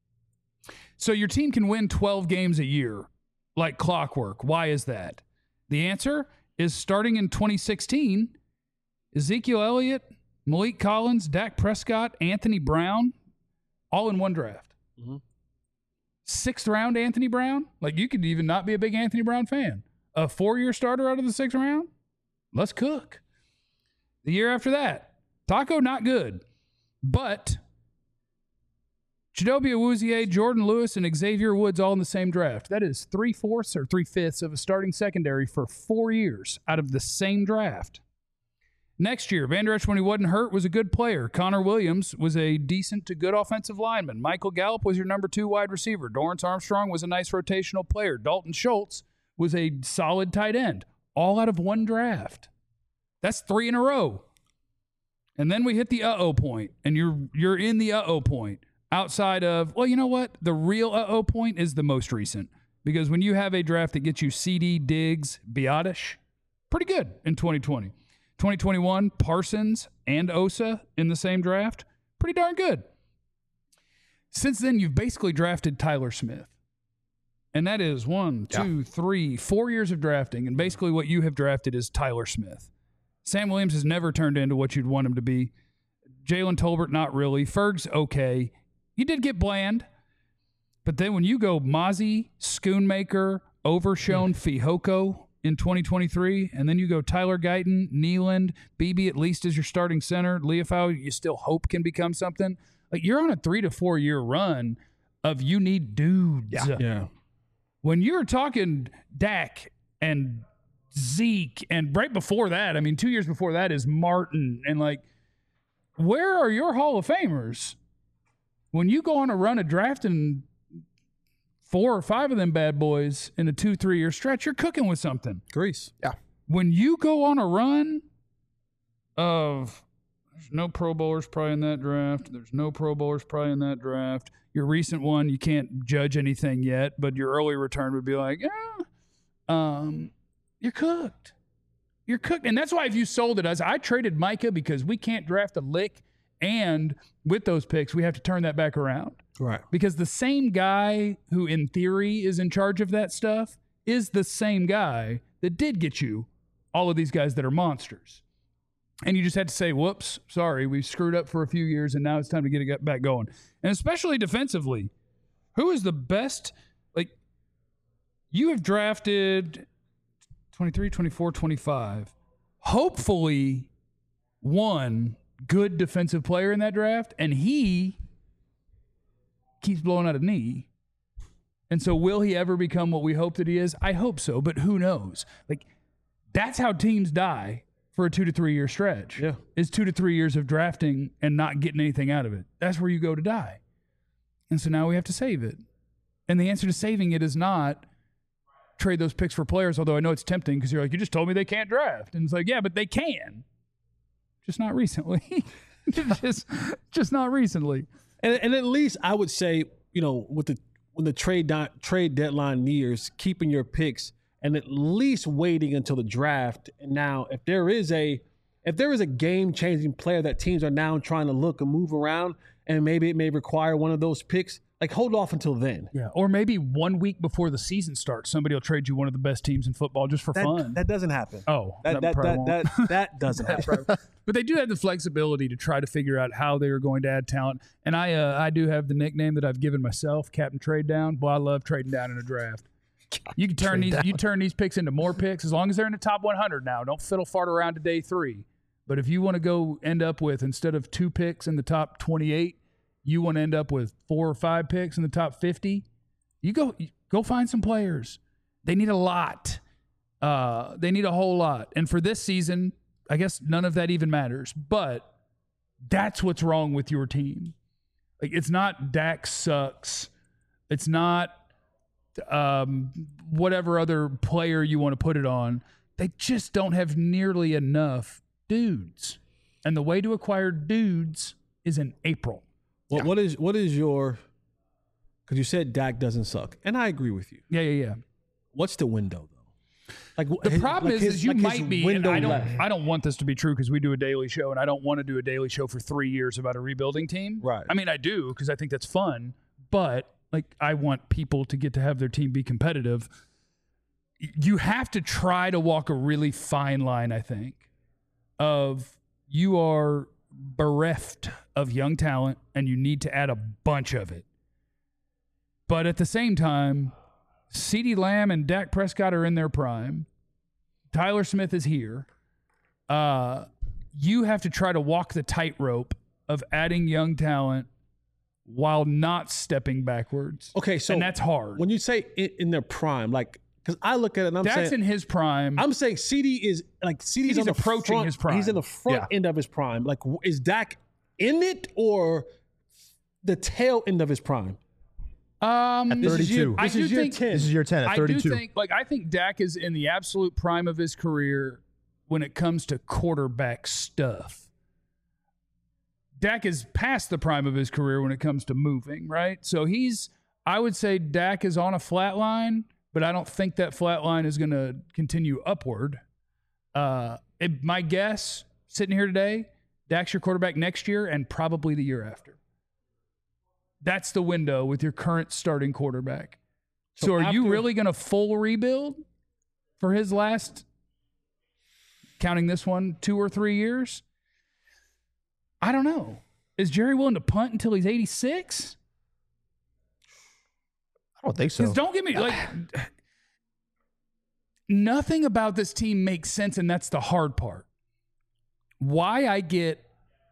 So your team can win 12 games a year like clockwork. Why is that? The answer is, starting in 2016, Ezekiel Elliott, Malik Collins, Dak Prescott, Anthony Brown, all in one draft. Mm-hmm. 6th round Anthony Brown? Like, you could even not be a big Anthony Brown fan. A 4-year starter out of the 6th round? Let's cook. The year after that, Taco, not good. But Chidobe Awuzie, Jordan Lewis, and Xavier Woods all in the same draft. That is 3/4 or 3/5 of a starting secondary for 4 years out of the same draft. Next year, Vander Esch, when he wasn't hurt, was a good player. Connor Williams was a decent to good offensive lineman. Michael Gallup was your number 2 wide receiver. Dorrance Armstrong was a nice rotational player. Dalton Schultz was a solid tight end. All out of one draft. That's 3 in a row. And then we hit the point, and you're in the point. Outside of, well, you know what? The real point is the most recent. Because when you have a draft that gets you CD, Diggs, Biadasz, pretty good in 2020. 2021, Parsons and Osa in the same draft. Pretty darn good. Since then, you've basically drafted Tyler Smith. And that is 1, 2, 3, 4 years of drafting. And basically what you have drafted is Tyler Smith. Sam Williams has never turned into what you'd want him to be. Jalen Tolbert, not really. Ferg's okay. You did get Bland. But then when you go Mozzie, Schoonmaker, Overshown, Fihoko in 2023, and then you go Tyler Guyton, Nealand, Beebe at least as your starting center, Leofau, you still hope can become something. Like, you're on a 3 to 4 year run of you need dudes. Yeah. When you're talking Dak and Zeke, and right before that, I mean, 2 years before that is Martin, and like, where are your Hall of Famers? When you go on a run of drafting 4 or 5 of them bad boys in a 2-3 year stretch, you're cooking with something. Grease. Yeah. When you go on a run of there's no Pro Bowlers probably in that draft, there's no Pro Bowlers probably in that draft. Your recent one, you can't judge anything yet, but your early return would be like, you're cooked. You're cooked. And that's why if you sold it, I traded Micah because we can't draft a lick, and with those picks, we have to turn that back around. Right. Because the same guy who, in theory, is in charge of that stuff is the same guy that did get you all of these guys that are monsters. And you just had to say, whoops, sorry, we screwed up for a few years, and now it's time to get it back going. And especially defensively, who is the best? Like, you have drafted 23, 24, 25. Hopefully, one good defensive player in that draft, and he keeps blowing out a knee. And so will he ever become what we hope that he is? I hope so, but who knows? Like, that's how teams die for a 2 to 3 year stretch. Yeah. Is 2 to 3 years of drafting and not getting anything out of it. That's where you go to die. And so now we have to save it. And the answer to saving it is not trade those picks for players, although I know it's tempting because you're like, you just told me they can't draft. And it's like, yeah, but they can. Just not recently. just not recently. And at least I would say, you know, when the trade deadline nears, keeping your picks and at least waiting until the draft. And now, if there is a game-changing player that teams are now trying to look and move around, and maybe it may require one of those picks, like, hold off until then. Yeah, or maybe 1 week before the season starts, somebody will trade you one of the best teams in football just for fun. That doesn't happen. Oh, that doesn't happen. But they do have the flexibility to try to figure out how they are going to add talent. And I do have the nickname that I've given myself, Captain Trade Down. Boy, I love trading down in a draft. You can turn these picks into more picks as long as they're in the top 100 now. Don't fiddle fart around to day 3. But if you want to go end up with, instead of 2 picks in the top 28, you want to end up with 4 or 5 picks in the top 50, you go find some players. They need a lot. They need a whole lot. And for this season, I guess none of that even matters. But that's what's wrong with your team. Like, it's not Dak sucks. It's not whatever other player you want to put it on. They just don't have nearly enough dudes. And the way to acquire dudes is in April. Well, yeah. What is your, because you said Dak doesn't suck, and I agree with you. Yeah. What's the window, though? Like, the problem is you might be, and I don't want this to be true because we do a daily show, and I don't want to do a daily show for 3 years about a rebuilding team. Right. I mean, I do because I think that's fun, but like, I want people to get to have their team be competitive. You have to try to walk a really fine line, I think, of you are bereft of young talent and you need to add a bunch of it. But at the same time, CeeDee Lamb and Dak Prescott are in their prime. Tyler Smith is here. You have to try to walk the tightrope of adding young talent while not stepping backwards. Okay, so and that's hard. When you say in their prime, like, because I look at it and I'm Dak's saying in his prime. I'm saying CeeDee's on the approaching front, his prime. He's in the front end of his prime. Like, is Dak in it or the tail end of his prime? At 32. This is year 10. This is year 10 at 32. I think Dak is in the absolute prime of his career when it comes to quarterback stuff. Dak is past the prime of his career when it comes to moving, right? So I would say Dak is on a flat line, but I don't think that flat line is going to continue upward. My guess, sitting here today, Dak's your quarterback next year and probably the year after. That's the window with your current starting quarterback. So are you really going to full rebuild for his last, counting this one, 2 or 3 years? I don't know. Is Jerry willing to punt until he's 86? I don't think so. Because don't get me, like, nothing about this team makes sense, and that's the hard part. Why I get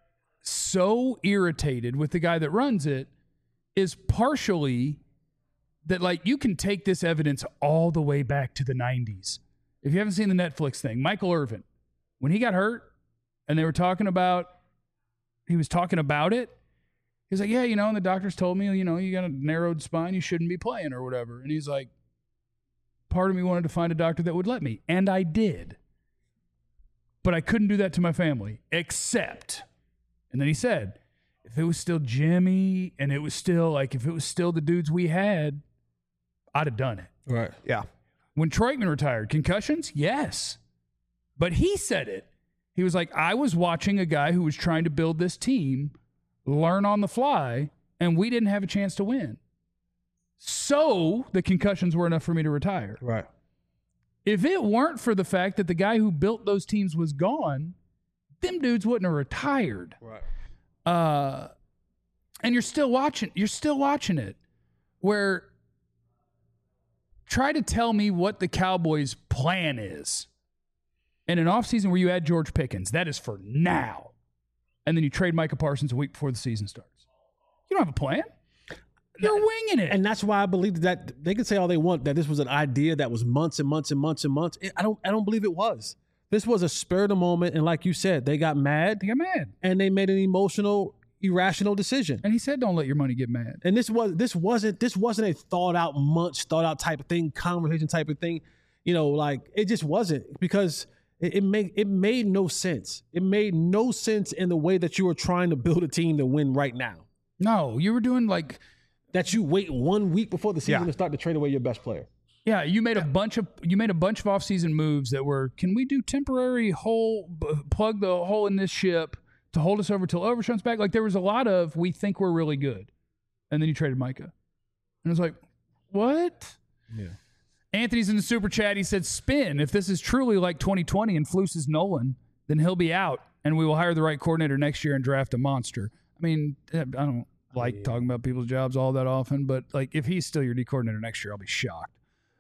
so irritated with the guy that runs it is partially that, like, you can take this evidence all the way back to the 90s. If you haven't seen the Netflix thing, Michael Irvin, when he got hurt and they were talking about, he was talking about it, he's like, yeah, and the doctors told me, you got a narrowed spine, you shouldn't be playing or whatever. And he's like, part of me wanted to find a doctor that would let me. And I did. But I couldn't do that to my family, except, and then he said, if it was still Jimmy and it was still if it was still the dudes we had, I'd have done it. Right. Yeah. When Troitman retired, concussions? Yes. But he said it. He was like, I was watching a guy who was trying to build this team learn on the fly, and we didn't have a chance to win. So the concussions were enough for me to retire. Right. If it weren't for the fact that the guy who built those teams was gone, them dudes wouldn't have retired. Right. And you're still watching it. Where try to tell me what the Cowboys' plan is in an offseason where you add George Pickens. That is for now. And then you trade Micah Parsons a week before the season starts. You don't have a plan. You're winging it. And that's why I believe that they can say all they want, that this was an idea that was months and months and months and months. I don't believe it was. This was a spur of the moment. And like you said, they got mad. And they made an emotional, irrational decision. And he said, don't let your money get mad. And this wasn't a thought out type of thing, conversation type of thing. It just wasn't, because it made no sense. It made no sense in the way that you were trying to build a team to win right now. No, you were doing that. You wait 1 week before the season to start to trade away your best player. Yeah, you made a bunch of offseason moves that were, can we do temporary plug the hole in this ship to hold us over till Overshown's back? Like, there was a lot of, we think we're really good. And then you traded Micah. And it was like, what? Yeah. Anthony's in the super chat. He said, spin. If this is truly like 2020 and Flus is Nolan, then he'll be out and we will hire the right coordinator next year and draft a monster. I mean, I don't like talking about people's jobs all that often, but if he's still your D coordinator next year, I'll be shocked.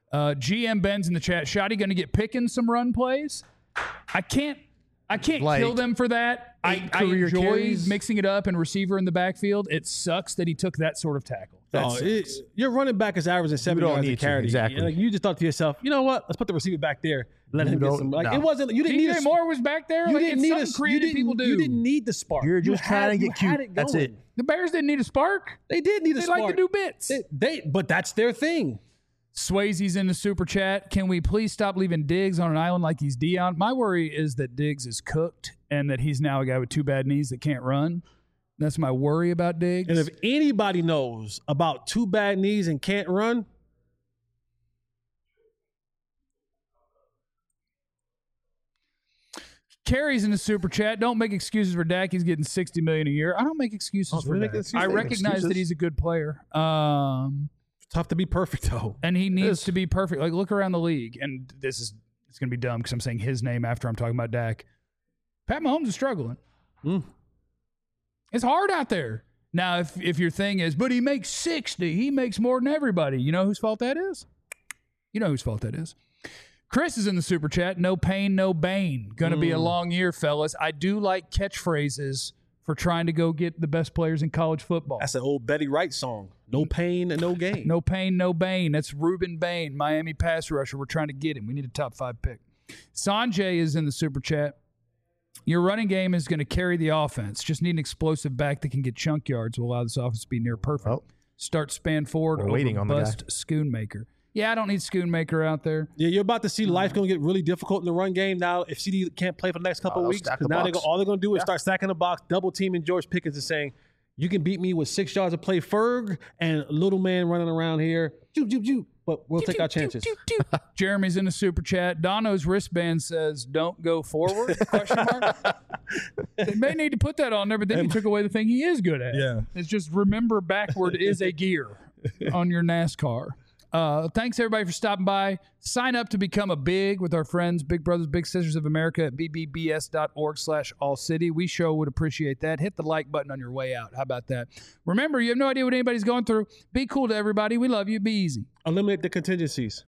GM Ben's in the chat. Shoddy going to get Pickens some run plays. I can't kill them for that. I enjoy mixing it up and receiver in the backfield. It sucks that he took that sort of tackle. Your running back is averaging 7 yards a carry. Exactly. You just thought to yourself, you know what? Let's put the receiver back there. Let him get some. It wasn't. You didn't need. DJ Moore was back there. You didn't need creative people do. You didn't need the spark. You're just trying to get cute. That's it. The Bears didn't need a spark. They did need a spark. They like to do bits. But that's their thing. Swayze's in the super chat. Can we please stop leaving Diggs on an island like he's Dion? My worry is that Diggs is cooked and that he's now a guy with 2 bad knees that can't run. That's my worry about Diggs. And if anybody knows about 2 bad knees and can't run, Carrie's in the super chat. Don't make excuses for Dak. He's getting $60 million a year. I don't make excuses for Dak. I recognize that he's a good player. Tough to be perfect, though. And he needs to be perfect. Look around the league. And it's going to be dumb because I'm saying his name after I'm talking about Dak. Pat Mahomes is struggling. It's hard out there. Now, if your thing is, but he makes 60, he makes more than everybody. You know whose fault that is? Chris is in the super chat. No pain, no bane. Going to be a long year, fellas. I do like catchphrases for trying to go get the best players in college football. That's an old Betty Wright song. No pain and no gain. No pain, no bane. That's Reuben Bain, Miami pass rusher. We're trying to get him. We need a top 5 pick. Sanjay is in the super chat. Your running game is going to carry the offense. Just need an explosive back that can get chunk yards will allow this offense to be near perfect. Oh. Start Span Ford over bust Schoonmaker. Yeah, I don't need Schoonmaker out there. Yeah, you're about to see life going to get really difficult in the run game now if CD can't play for the next couple of weeks. Because now all they're going to do is start stacking the box, double teaming George Pickens and saying, you can beat me with 6 yards of play Ferg and little man running around here. Joop, joop, joop. But we'll take our chances. Jeremy's in the super chat. Dono's wristband says, don't go forward, ? They may need to put that on there, but then you took away the thing he is good at. Yeah. It's just remember backward is a gear on your NASCAR. Thanks, everybody, for stopping by. Sign up to become a big with our friends, Big Brothers, Big Sisters of America at bbbs.org/allcity. We sure would appreciate that. Hit the like button on your way out. How about that? Remember, you have no idea what anybody's going through. Be cool to everybody. We love you. Be easy. Eliminate the contingencies.